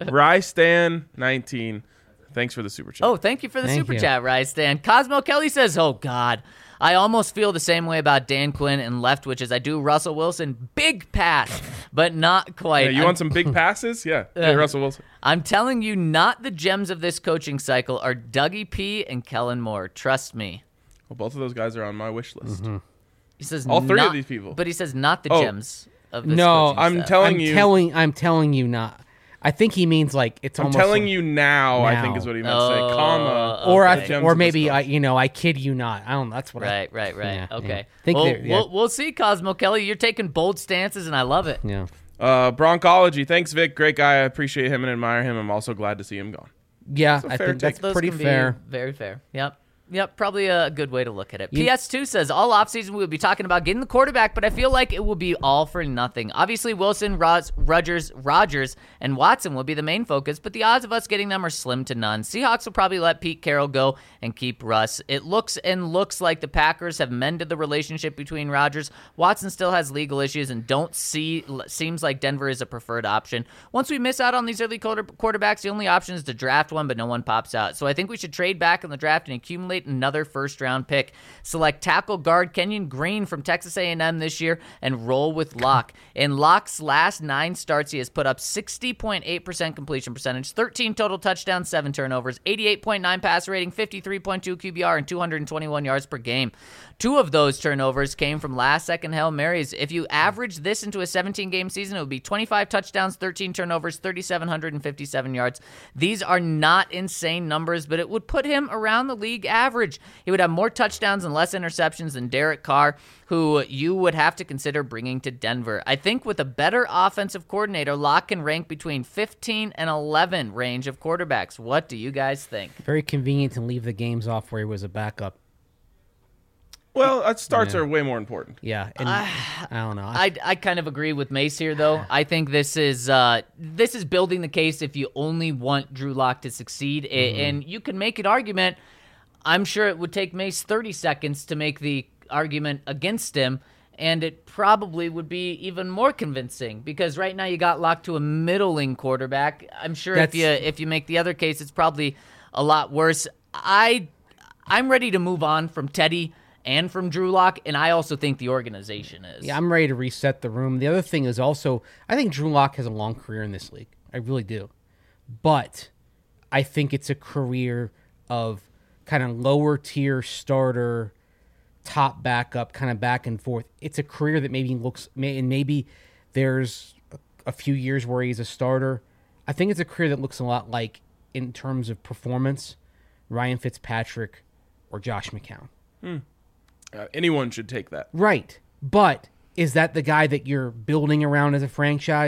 Rystan nineteen. Thanks for the super chat. Oh, thank you for the Thank super you. chat, Rise Stan. Cosmo Kelly says, "Oh God." I almost feel the same way about Dan Quinn and Leftwich as I do Russell Wilson. Big pass, but not quite. Yeah, you I'm, want some big passes? Yeah, hey, Russell Wilson. I'm telling you, not the gems of this coaching cycle are Dougie P and Kellen Moore. Trust me. Well, both of those guys are on my wish list. He says All three of not- these people. but he says not the Oh. gems of this No, coaching I'm staff. telling I'm you. telling. I'm telling you not. I think he means like it's I'm almost telling like- you now, I think Now. is what he meant to Oh, say. Comma. or okay. I, gems or of this maybe stuff. I, you know, I kid you not. I don't. That's what Right, right, right. Yeah, okay. yeah. Think well, they're- yeah. we'll, we'll see, Cosmo Kelly. You're taking bold stances, and I love it. I. Yeah. Uh, Broncology. Thanks, Vic. Great guy. I appreciate him and admire him. I'm also glad to see him gone. Yeah, a I fair think that's take. Those pretty can be fair. very fair. Yep. Yep, probably a good way to look at it. You- P S two says, all offseason we'll be talking about getting the quarterback, but I feel like it will be all for nothing. Obviously, Wilson, Ros- Rogers, Rogers, and Watson will be the main focus, but the odds of us getting them are slim to none. Seahawks will probably let Pete Carroll go and keep Russ. It looks and looks like the Packers have mended the relationship between Rogers. Watson still has legal issues and don't see, seems like Denver is a preferred option. Once we miss out on these early quarter- quarterbacks, the only option is to draft one, but no one pops out. So I think we should trade back in the draft and accumulate another first-round pick. Select tackle guard Kenyon Green from Texas A and M this year and roll with Locke. In Locke's last nine starts, he has put up sixty point eight percent completion percentage, thirteen total touchdowns, seven turnovers, eighty-eight point nine passer rating, fifty-three point two Q B R, and two hundred twenty-one yards per game. Two of those turnovers came from last-second Hail Marys. If you average this into a seventeen-game season, it would be twenty-five touchdowns, thirteen turnovers, three thousand seven hundred fifty-seven yards. These are not insane numbers, but it would put him around the league average. He would have more touchdowns and less interceptions than Derek Carr, who you would have to consider bringing to Denver. I think with a better offensive coordinator, Locke can rank between fifteen and eleven range of quarterbacks. What do you guys think? Very convenient to leave the games off where he was a backup. Well, uh, starts Yeah. are way more important. Yeah, and I don't know. I, I kind of agree with Mace here, though. I think this is uh, this is building the case if you only want Drew Lock to succeed, A- Mm-hmm. and you can make an argument. I'm sure it would take Mace thirty seconds to make the argument against him, and it probably would be even more convincing because right now you got locked to a middling quarterback. I'm sure if That's- you if you make the other case, it's probably a lot worse. I I'm ready to move on from Teddy and from Drew Lock, and I also think the organization is. Yeah, I'm ready to reset the room. The other thing is also, I think Drew Lock has a long career in this league. I really do. But I think it's a career of kind of lower tier starter, top backup, kind of back and forth. It's a career that maybe looks, may- and maybe there's a, a few years where he's a starter. I think it's a career that looks a lot like, in terms of performance, Ryan Fitzpatrick or Josh McCown. Uh, anyone should take that. Right. But is that the guy that you're building around as a franchise?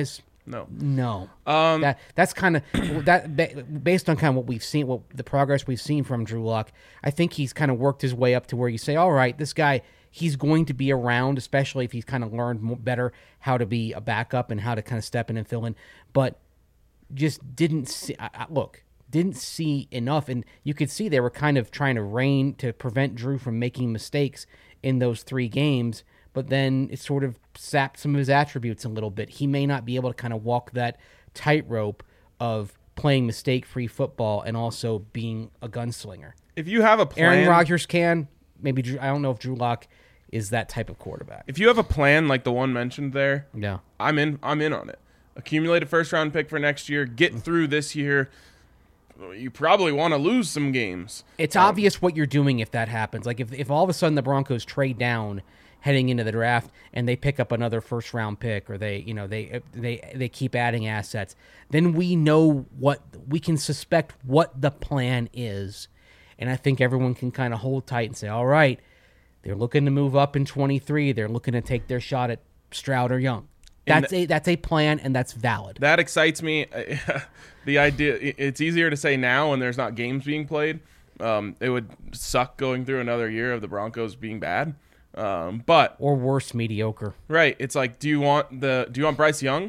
No. No. Um, that that's kind of that ba- based on kind of what we've seen, what the progress we've seen from Drew Lock. I think he's kind of worked his way up to where you say, all right, this guy, he's going to be around, especially if he's kind of learned more, better how to be a backup and how to kind of step in and fill in. But just didn't see. I, I, look, didn't see enough, and you could see they were kind of trying to rein to prevent Drew from making mistakes in those three games. But then it sort of sapped some of his attributes a little bit. He may not be able to kind of walk that tightrope of playing mistake-free football and also being a gunslinger. If you have a plan, Aaron Rodgers can. Maybe Drew, I don't know if Drew Lock is that type of quarterback. if you have a plan like the one mentioned there, Yeah. I'm in. I'm in on it. Accumulate a first round pick for next year. Get through this year. You probably want to lose some games. It's obvious what you're doing if that happens. Like if, if all of a sudden the Broncos trade down heading into the draft and they pick up another first round pick, or they, you know, they they they keep adding assets, then we know what we can suspect what the plan is. And I think everyone can kind of hold tight and say, all right, they're looking to move up in twenty-three. They're looking to take their shot at Stroud or Young. And That's a that's a plan, and that's valid. That excites me. The idea, it's easier to say now when there's not games being played. Um, it would suck going through another year of the Broncos being bad. Um, but Or worse, mediocre. right, it's like, do you want the do you want Bryce Young,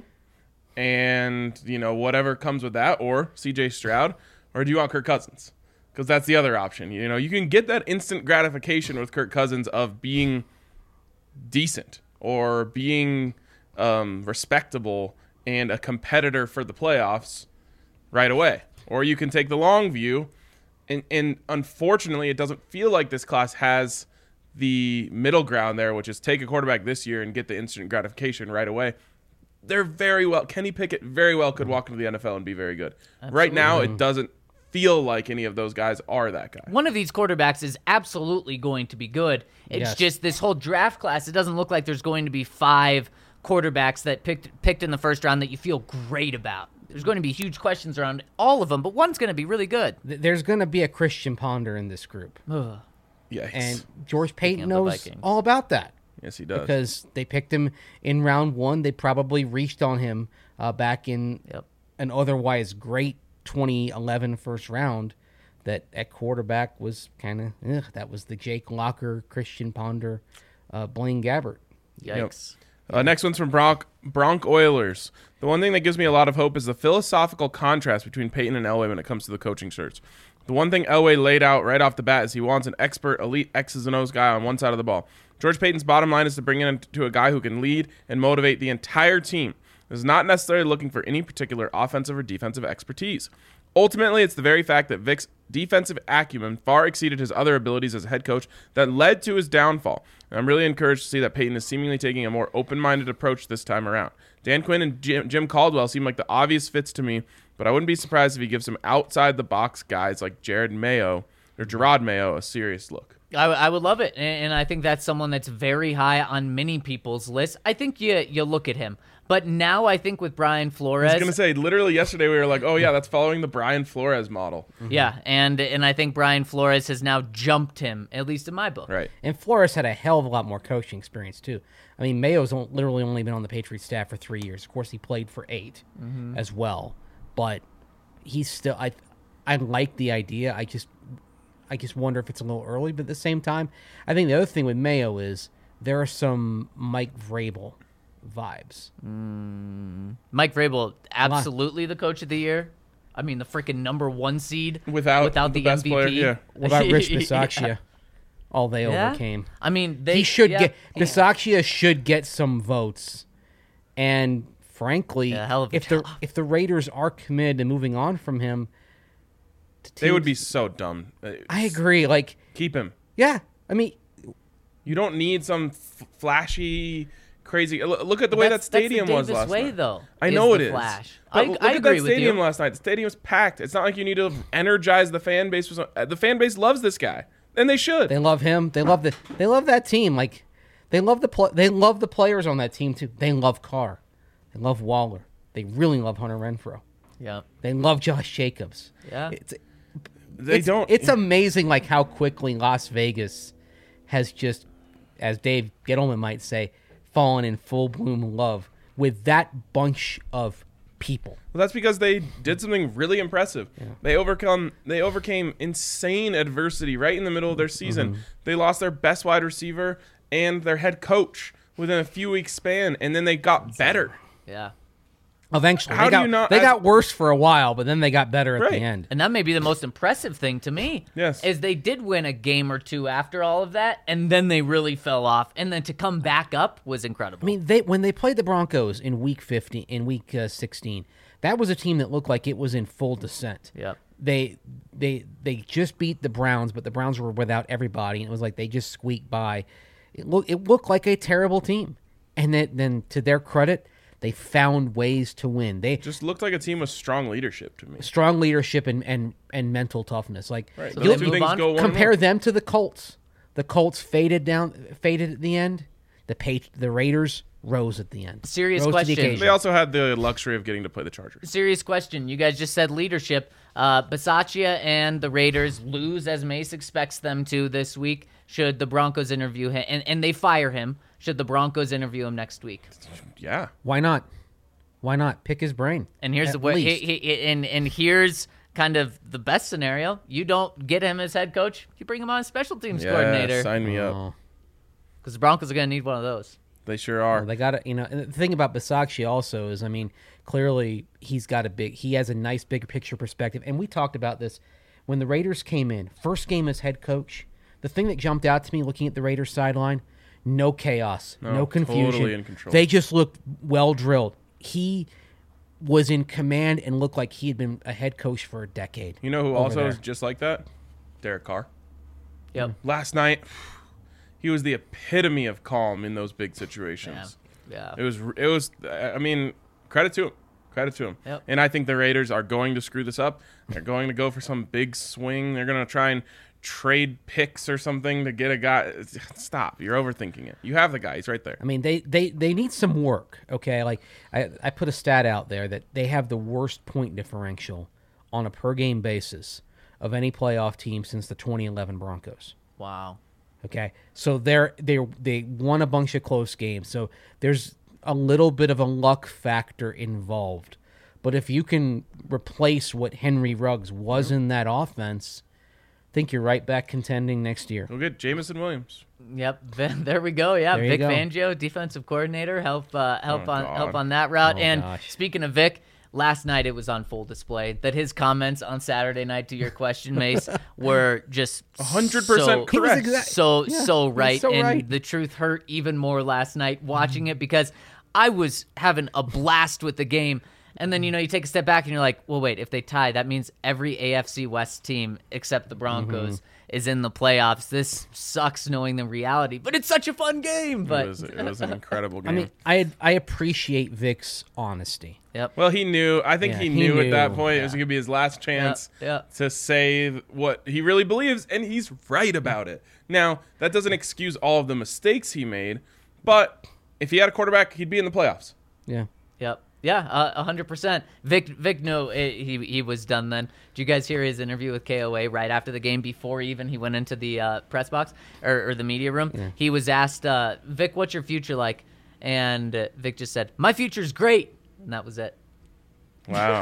and you know whatever comes with that, or C J Stroud, or do you want Kirk Cousins? Because that's the other option. You know, you can get that instant gratification with Kirk Cousins of being decent or being um, respectable and a competitor for the playoffs right away. Or you can take the long view, and, and unfortunately, it doesn't feel like this class has the middle ground there, which is take a quarterback this year and get the instant gratification right away. They're very well, Kenny Pickett very well could walk into the N F L and be very good. Right now, it doesn't feel like any of those guys are that guy. One of these quarterbacks is absolutely going to be good. It's Yes. just this whole draft class, it doesn't look like there's going to be five quarterbacks that picked picked in the first round that you feel great about. There's going to be huge questions around all of them, but one's going to be really good. Th- There's going to be a Christian Ponder in this group. Ugh. Yes. And George Payton of the knows Vikings. all about that yes, he does. because they picked him in round one. They probably reached on him uh, back in Yep. an otherwise great twenty eleven first round. That at quarterback was kind of that was the Jake Locker, Christian Ponder, uh, Blaine Gabbert. Yikes. Uh, next one's from Bronc, Bronc Oilers. The one thing that gives me a lot of hope is the philosophical contrast between Peyton and Elway when it comes to the coaching search. The one thing Elway laid out right off the bat is he wants an expert, elite X's and O's guy on one side of the ball. George Payton's bottom line is to bring in to a guy who can lead and motivate the entire team. Is not necessarily looking for any particular offensive or defensive expertise. Ultimately, it's the very fact that Vic's defensive acumen far exceeded his other abilities as a head coach that led to his downfall. And I'm really encouraged to see that Peyton is seemingly taking a more open-minded approach this time around. Dan Quinn and Jim, Jim Caldwell seem like the obvious fits to me, but I wouldn't be surprised if he gives some outside-the-box guys like Jared Mayo or Gerard Mayo a serious look. I, I would love it, and, and I think that's someone that's very high on many people's list. I think you you look at him, but now I think with Brian Flores, I was going to say, literally yesterday we were like, oh yeah, that's following the Brian Flores model. yeah, and and I think Brian Flores has now jumped him, at least in my book. Right. And Flores had a hell of a lot more coaching experience too. I mean, Mayo's on- literally only been on the Patriots staff for three years. Of course, he played for eight as well, but he's still. I I like the idea. I just I just wonder if it's a little early. But at the same time, I think the other thing with Mayo is there are some Mike Vrabel vibes. Mike Vrabel, absolutely the coach of the year. I mean, the freaking number one seed Without, without the, the, best M V P. player. Yeah. What about Rich Yeah. Bisaccia? All they Yeah? overcame. I mean, they he should yeah. get Bisaccia should get some votes, and frankly, Yeah, hell of a if the job. if the Raiders are committed to moving on from him, to They would be teams- so dumb. Uh, I agree. Like, Keep him. yeah, I mean, You don't need some f- flashy, crazy. l- Look at the way that That's- that's the stadium was Davis last way, night. though, I is know it the is. flash. But I- look I at agree that with stadium you. last night. The stadium was packed. It's not like you need to energize the fan base. For some, the fan base loves this guy, and they should. they love him. They love the they love that team. Like, they love the pl- they love the players on that team too. They love Carr. They love Waller. They really love Hunter Renfrow. Yeah. They love Josh Jacobs. Yeah. It's, they it's, don't. It's amazing, like how quickly Las Vegas has just, as Dave Gettleman might say, fallen in full bloom love with that bunch of people. Well, that's because they did something really impressive. They overcome they overcame insane adversity right in the middle of their season. Mm-hmm. They lost their best wide receiver and their head coach within a few weeks span, and then they got better. Yeah. Eventually, How they, do got, you not- they as- got worse for a while, but then they got better at Right. the end. And that may be the most impressive thing to me. Yes. Is they did win a game or two after all of that, and then they really fell off. And then to come back up was incredible. I mean, they when they played the Broncos in week fifteen, in week uh, sixteen, that was a team that looked like it was in full descent. Yep. They they they just beat the Browns, but the Browns were without everybody, and it was like they just squeaked by. It looked it looked like a terrible team, and then then to their credit, they found ways to win. They Just looked like a team with strong leadership to me. strong leadership and and, and mental toughness. Like Right. So Those they two move things on? go one compare and them to the Colts. The Colts faded down, faded at the end. The Pat- the Raiders rose at the end. Serious Rose to the question. occasion. They also had the luxury of getting to play the Chargers. Serious question. You guys just said leadership. Uh, Bisaccia and the Raiders lose as Mace expects them to this week. Should the Broncos interview him, and, and they fire him, should the Broncos interview him next week? Yeah. Why not? Why not pick his brain? And here's At the way, least. he, he, and and here's kind of the best scenario. You don't get him as head coach. You bring him on as special teams Yeah, coordinator, sign me up. Oh. because the Broncos are going to need one of those. They sure are. Well, they got to, you know. And the thing about Bisaccia also is, I mean, clearly he's got a big, he has a nice big picture perspective. And we talked about this when the Raiders came in, first game as head coach. The thing that jumped out to me looking at the Raiders sideline, no chaos, no, No, confusion. totally in control. They just looked well drilled. He was in command and looked like he had been a head coach for a decade. You know who over also there. is just like that? Derek Carr. Yep. Last night, he was the epitome of calm in those big situations. Yeah. It was, it was. I mean, credit to him. Credit to him. Yep. And I think the Raiders are going to screw this up. They're going to go for some big swing. They're going to try and trade picks or something to get a guy. Stop. You're overthinking it. You have the guy. He's right there. I mean, they, they, they need some work, okay? Like, I, I put a stat out there that they have the worst point differential on a per-game basis of any playoff team since the twenty eleven Broncos, Wow. okay? So they're, they they won a bunch of close games, so there's a little bit of a luck factor involved. But if you can replace what Henry Ruggs was in that offense, I think you're right back contending next year. Go get Jamison Williams. Yep, there we go. Yeah, There you Vic go. Fangio, defensive coordinator, help uh, help Oh, on God. help on that route. Oh, and gosh. speaking of Vic, last night it was on full display that his comments on Saturday night to your question, Mace, were just one hundred percent so, correct. He was exact- So Yeah, so he was right, so and right. the truth hurt even more last night watching it because I was having a blast with the game. And then, you know, you take a step back and you're like, well, wait, if they tie, that means every A F C West team except the Broncos Mm-hmm. is in the playoffs. This sucks knowing the reality, but it's such a fun game. But it was, it was an incredible game. I mean, I I appreciate Vic's honesty. yep. well, he knew. I think Yeah, he, he knew, at that knew. point it was going to be his last chance yeah. to say what he really believes, and he's right about it. Now, that doesn't excuse all of the mistakes he made, but if he had a quarterback, he'd be in the playoffs. Yeah. Yep. Yeah, uh, one hundred percent. Vic, Vic knew it, he he was done then. Did you guys hear his interview with K O A right after the game before even he went into the uh, press box or, or the media room? He was asked, uh, Vic, what's your future like? And uh, Vic just said, my future's great. And that was it. Wow.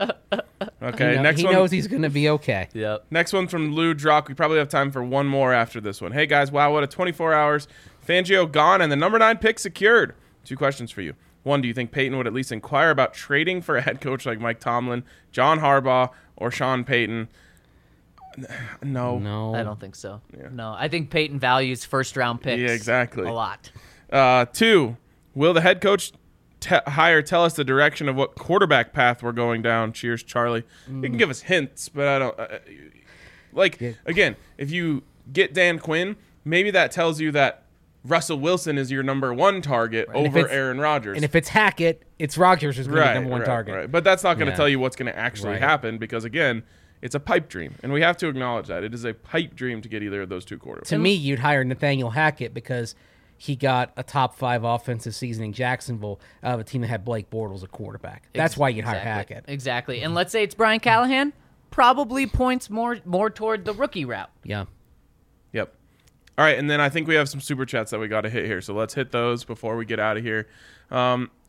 Okay, He, know- next he one. knows he's going to be okay. Yep. Next one from Lou Drock. We probably have time for one more after this one. Hey guys, wow, what a twenty-four hours. Fangio gone and the number nine pick secured. Two questions for you. One, do you think Peyton would at least inquire about trading for a head coach like Mike Tomlin, John Harbaugh, or Sean Payton? No. No. I don't think so. No, I think Peyton values first round picks Yeah, exactly. a lot. Uh, two, will the head coach te- hire tell us the direction of what quarterback path we're going down? Cheers, Charlie. You can give us hints, but I don't. Uh, like, Yeah. again, if you get Dan Quinn, maybe that tells you that Russell Wilson is your number one target And if over it's- Aaron Rodgers. And if it's Hackett, it's Rodgers who's going to be right, the number one right, target. right. But that's not going to Yeah. tell you what's going to actually Right. happen because, again, it's a pipe dream. And we have to acknowledge that. It is a pipe dream to get either of those two quarterbacks. To me, you'd hire Nathaniel Hackett because he got a top five offensive season in Jacksonville out of a team that had Blake Bortles a quarterback. That's Ex- why you'd hire exactly. Hackett. Exactly. And let's say it's Brian Callahan, probably points more more toward the rookie route. Yeah. Yep. All right, and then I think we have some super chats that we got to hit here. So let's hit those before we get out of here. Um,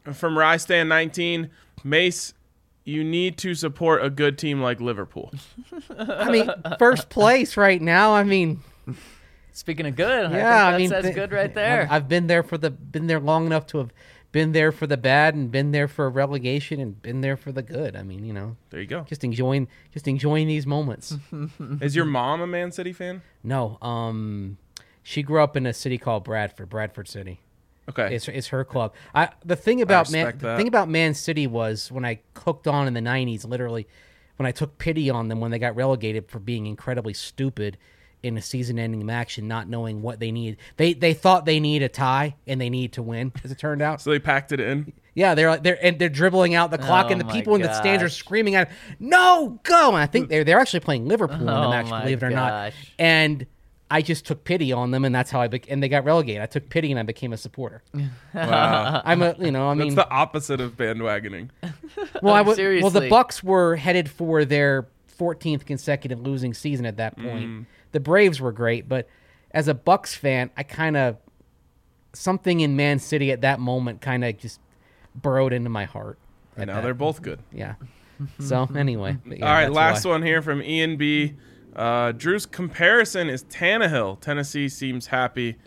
from Rystan nineteen, Mace, you need to support a good team like Liverpool. I mean, first place right now. I mean, Speaking of good, yeah, I I think mean, that's, that's th- good right there. I've, I've been there for the been there long enough to have been there for the bad and been there for relegation and been there for the good. I mean, you know, There you go. just enjoying just enjoying these moments. Is your mom a Man City fan? No, um, she grew up in a city called Bradford, Bradford City. Okay. It's it's her club. I the thing about Man respect the that. thing about Man City was when I hooked on in the nineties, literally when I took pity on them when they got relegated for being incredibly stupid in a season-ending match and not knowing what they need. They they thought they need a tie and they need to win, as it turned out. so they packed it in. Yeah, they're they're and they're dribbling out the clock, Oh and the my people in the stands are gosh. screaming at, "No, go!" And I think they're they're actually playing Liverpool in the Oh match, my believe it or not. gosh. And I just took pity on them, and that's how I bec and they got relegated. I took pity and I became a supporter. Wow. I'm a you know I mean That's the opposite of bandwagoning. well I w- well Seriously. the Bucks were headed for their fourteenth consecutive losing season at that point. The Braves were great, but as a Bucks fan, I kind of something in Man City at that moment kind of just burrowed into my heart. And now they're both good. Yeah. So anyway, but yeah, All right, that's last why. one here from Ian B. Uh, Drew's comparison is Tannehill. Tennessee seems happy.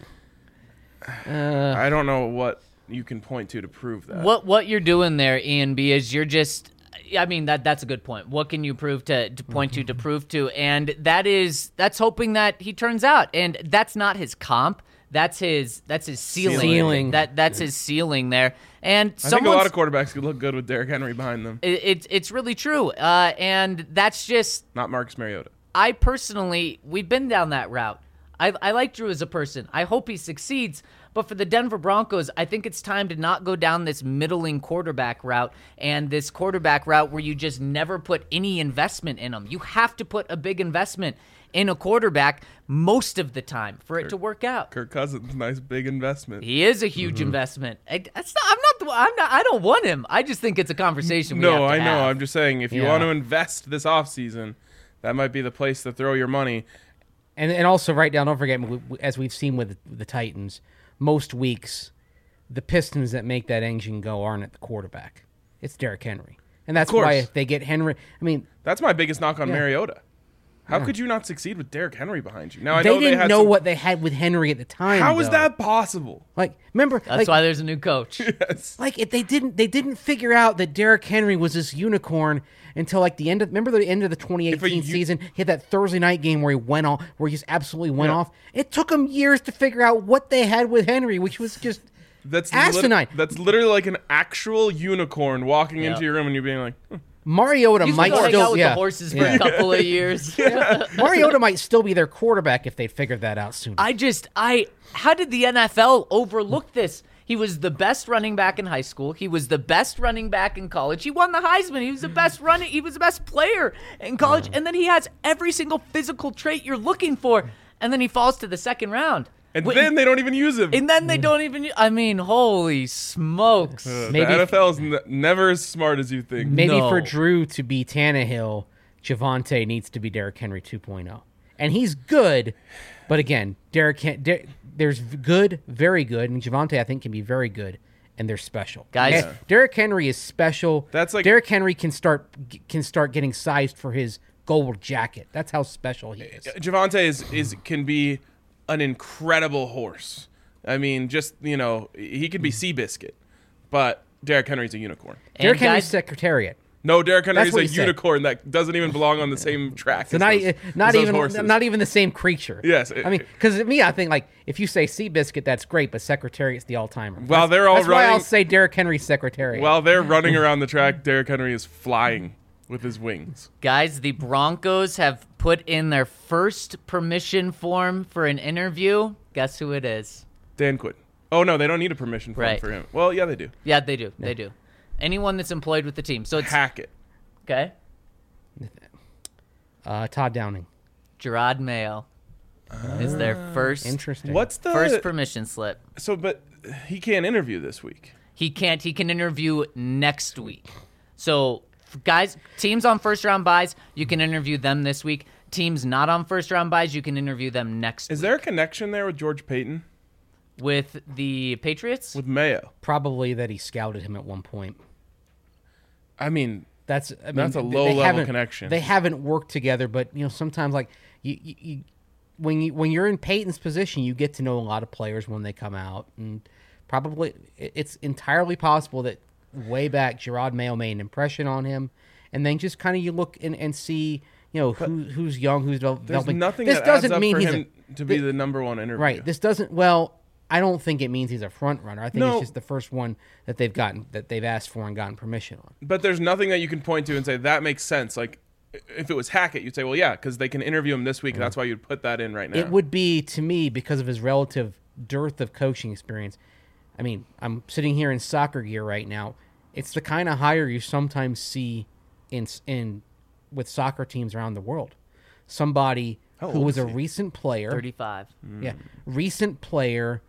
Uh, I don't know what you can point to to prove that. What what you're doing there, Ian B, is you're just. I mean that that's a good point. What can you prove to, to point to to prove to? And that is that's hoping that he turns out. And that's not his comp. That's his that's his ceiling. Ceiling. That that's his ceiling there. And I think a lot someone's- of quarterbacks could look good with Derrick Henry behind them. it, it's it's really true. Uh, and that's just Not Marcus Mariota. I personally, we've been down that route. I, I like Drew as a person. I hope he succeeds. But for the Denver Broncos, I think it's time to not go down this middling quarterback route and this quarterback route where you just never put any investment in them. You have to put a big investment in a quarterback most of the time for it to work out. Kirk Cousins, nice big investment. He is a huge investment. I, that's not, I'm not. the- I'm not. I don't want him. I just think it's a conversation. We No, have to I know. have. I'm just saying, if you Yeah. want to invest this offseason, that might be the place to throw your money. and and also write down. Don't forget, we- we- as we've seen with the Titans, most weeks, the pistons that make that engine go aren't at the quarterback. It's Derrick Henry, and that's course. why if they get Henry, I mean, That's my biggest knock on Yeah. Mariota. How could you not succeed with Derrick Henry behind you? Now I they know didn't they had know some- what they had with Henry at the time. How is though. that possible? Like, remember, That's like, why there's a new coach. Yes. like if they didn't they didn't figure out that Derrick Henry was this unicorn until like the end of remember the end of the twenty If a eighteen u- season. He had that Thursday night game where he went off, where he just absolutely went Yeah. off. It took them years to figure out what they had with Henry, which was just That's lit- asinine. that's literally like an actual unicorn walking Yeah. into your room and you being like, "Hmm, Mariota You can might go hang still out with yeah. the horses for Yeah. a couple of years. Mariota might still be their quarterback if they'd figured that out sooner. I just, I, how did the N F L overlook this? He was the best running back in high school. He was the best running back in college. He won the Heisman. He was the best running. He was the best player in college. And then he has every single physical trait you're looking for. And then he falls to the second round. and Wait, then they don't even use him. and then they don't even. I mean, holy smokes! Uh, Maybe the if- N F L is n- never as smart as you think. Maybe No. for Drew to be Tannehill, Javante needs to be Derrick Henry two point oh. And he's good, but again, Derrick Hen- Der- there's v- good, very good, and Javante I think can be very good, and they're special. Guys- And Derrick Henry is special. That's like- Derrick Henry can start g- can start getting sized for his gold jacket. That's how special he is. Javante is, is can be an incredible horse. I mean, just, you know, he could be Seabiscuit, but Derrick Henry's a unicorn. And Derrick Henry's guys- Secretariat. No, Derrick Henry's That's what a he said. unicorn that doesn't even belong on the same track. So as not those- e- not as those even horses. not even the same creature. Yes, I mean, because to me, I think like if you say Seabiscuit, that's great, but Secretariat's the all timer. While they're all That's why I'll running- say Derrick Henry's Secretariat. While they're running around the track, Derrick Henry is flying with his wings. Guys, the Broncos have put in their first permission form for an interview. Guess who it is? Dan Quinn. Oh no, they don't need a permission form Right. for him. Well, yeah, they do. Yeah, they do. They do. Anyone that's employed with the team. So it's Hackett. okay. uh, Todd Downing. Gerard Mayo is their first Interesting. What's the first permission slip. so? But he can't interview this week. He can't. He can interview next week. So, f- guys, teams on first round buys, you can interview them this week. Teams not on first round buys, you can interview them next Is week. there a connection there with George Payton? with the Patriots? with Mayo. Probably that he scouted him at one point. I mean, That's I mean, That's a they- low they level haven't- connection. They haven't worked together, but you know sometimes like you, you, you when you when you're in Peyton's position, you get to know a lot of players when they come out, and probably it- it's entirely possible that way back Gerard Mayo made an impression on him, and then just kind of you look and, and see you know who who's young, who's devel- there's developing. nothing this that doesn't adds up mean for he's him a, to be thi- the number one interview. right. This doesn't well. I don't think it means he's a front runner. I think No. it's just the first one that they've gotten that they've asked for and gotten permission on. But there's nothing that you can point to and say that makes sense. Like, if it was Hackett, you'd say, well, yeah, because they can interview him this week. That's why you'd put that in right now. It would be to me because of his relative dearth of coaching experience. I mean, I'm sitting here in soccer gear right now. It's the kind of hire you sometimes see in in with soccer teams around the world. Somebody How who old was is a he? recent player, thirty-five. yeah, recent player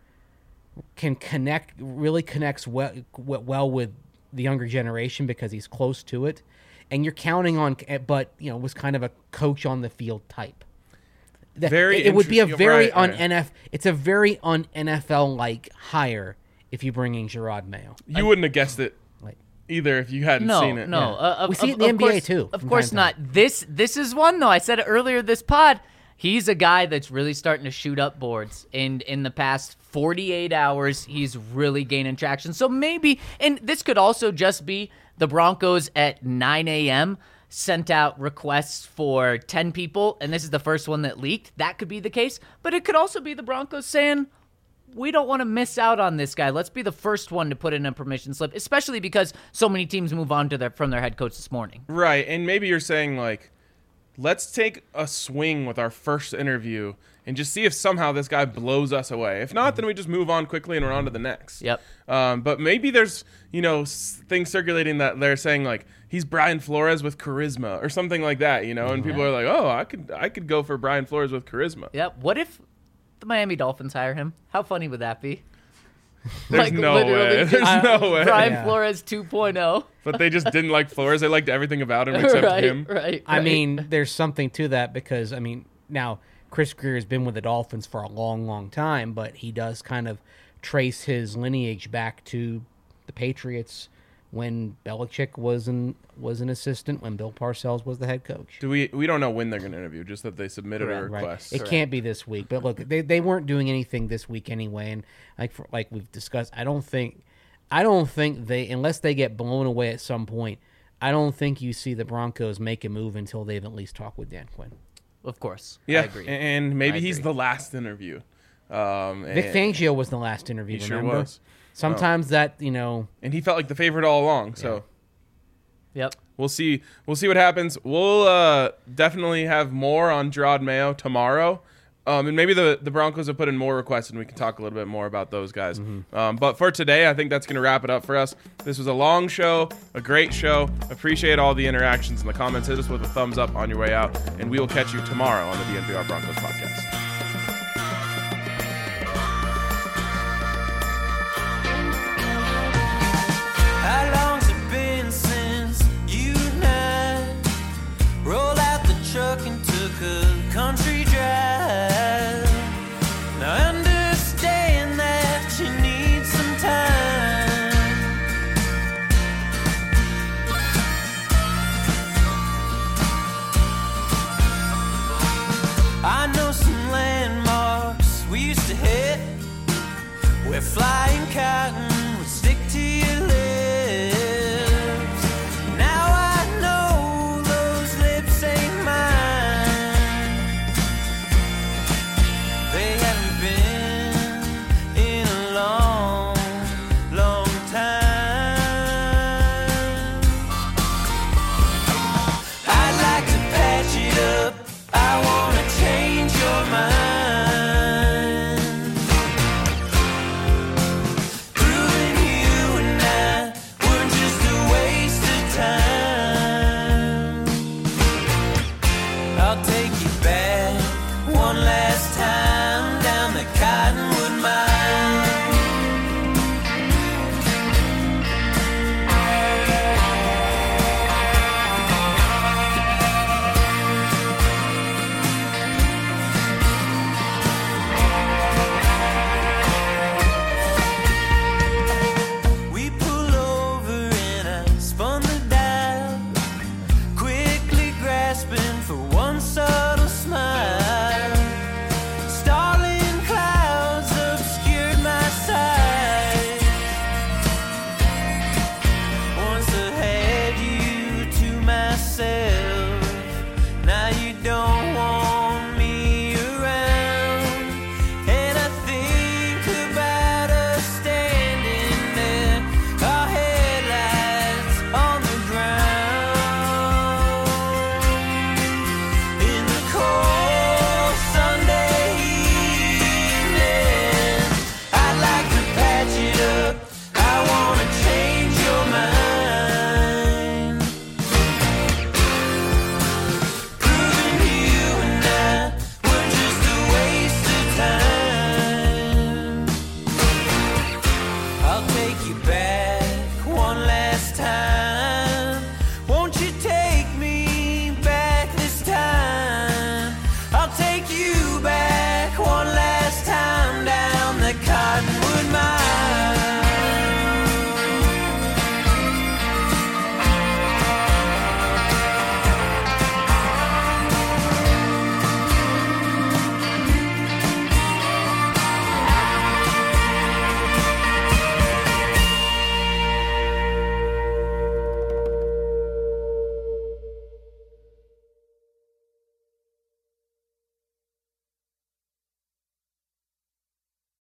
can connect, really connects well, well with the younger generation because he's close to it, and you're counting on, but you know, was kind of a coach on the field type. That- Very it, it would be a inter- very right, un right. N F. It's a very un N F L like hire if you bring in Gerard Mayo. You wouldn't have guessed it Like either if you hadn't No, seen it. no. Yeah. Uh, of- We see it of- in the of N B A course- too, Of from course time to not. This this is one though. I said it earlier this pod. He's a guy that's really starting to shoot up boards, and in the past forty-eight hours, he's really gaining traction. So maybe, and this could also just be the Broncos at nine a.m. sent out requests for ten people, and this is the first one that leaked. That could be the case, but it could also be the Broncos saying, we don't want to miss out on this guy. Let's be the first one to put in a permission slip, especially because so many teams move on to their from their head coach this morning. Right, and maybe you're saying, like, let's take a swing with our first interview and just see if somehow this guy blows us away. If not, then we just move on quickly and we're on to the next. Yep. Um, but maybe there's, you know, s- things circulating that they're saying, like, he's Brian Flores with charisma or something like that, you know? And people are like, oh, I could I could go for Brian Flores with charisma. Yep. What if the Miami Dolphins hire him? How funny would that be? There's no way. There's just no way. Brian Yeah. Flores two point oh. But they just didn't like Flores. They liked everything about him except right, him. right. I right. mean, there's something to that because I mean, now Chris Greer has been with the Dolphins for a long, long time, but he does kind of trace his lineage back to the Patriots when Belichick was an was an assistant, when Bill Parcells was the head coach. Do we we don't know when they're going to interview, just that they submitted a Correct. Right. request. It can't be this week, but look, they, they weren't doing anything this week anyway, and like for, like we've discussed, I don't think, I don't think they unless they get blown away at some point, I don't think you see the Broncos make a move until they've at least talked with Dan Quinn. Of course. Yeah, I agree. and maybe I he's agree. the last interview. Um, Vic and, Fangio was the last interview. He sure remember? was. Sometimes that you know, and he felt like the favorite all along. So Yep. we'll see. We'll see what happens. We'll uh, definitely have more on Gerard Mayo tomorrow. Um, and maybe the, the Broncos have put in more requests, and we can talk a little bit more about those guys. Um, but for today, I think that's going to wrap it up for us. This was a long show, a great show. Appreciate all the interactions in the comments. Hit us with a thumbs up on your way out, and we will catch you tomorrow on the D N V R Broncos podcast. How long's it been since you and I rolled out the truck and took a country drive? Now I understand that you need some time. I know some landmarks we used to hit where flying cotton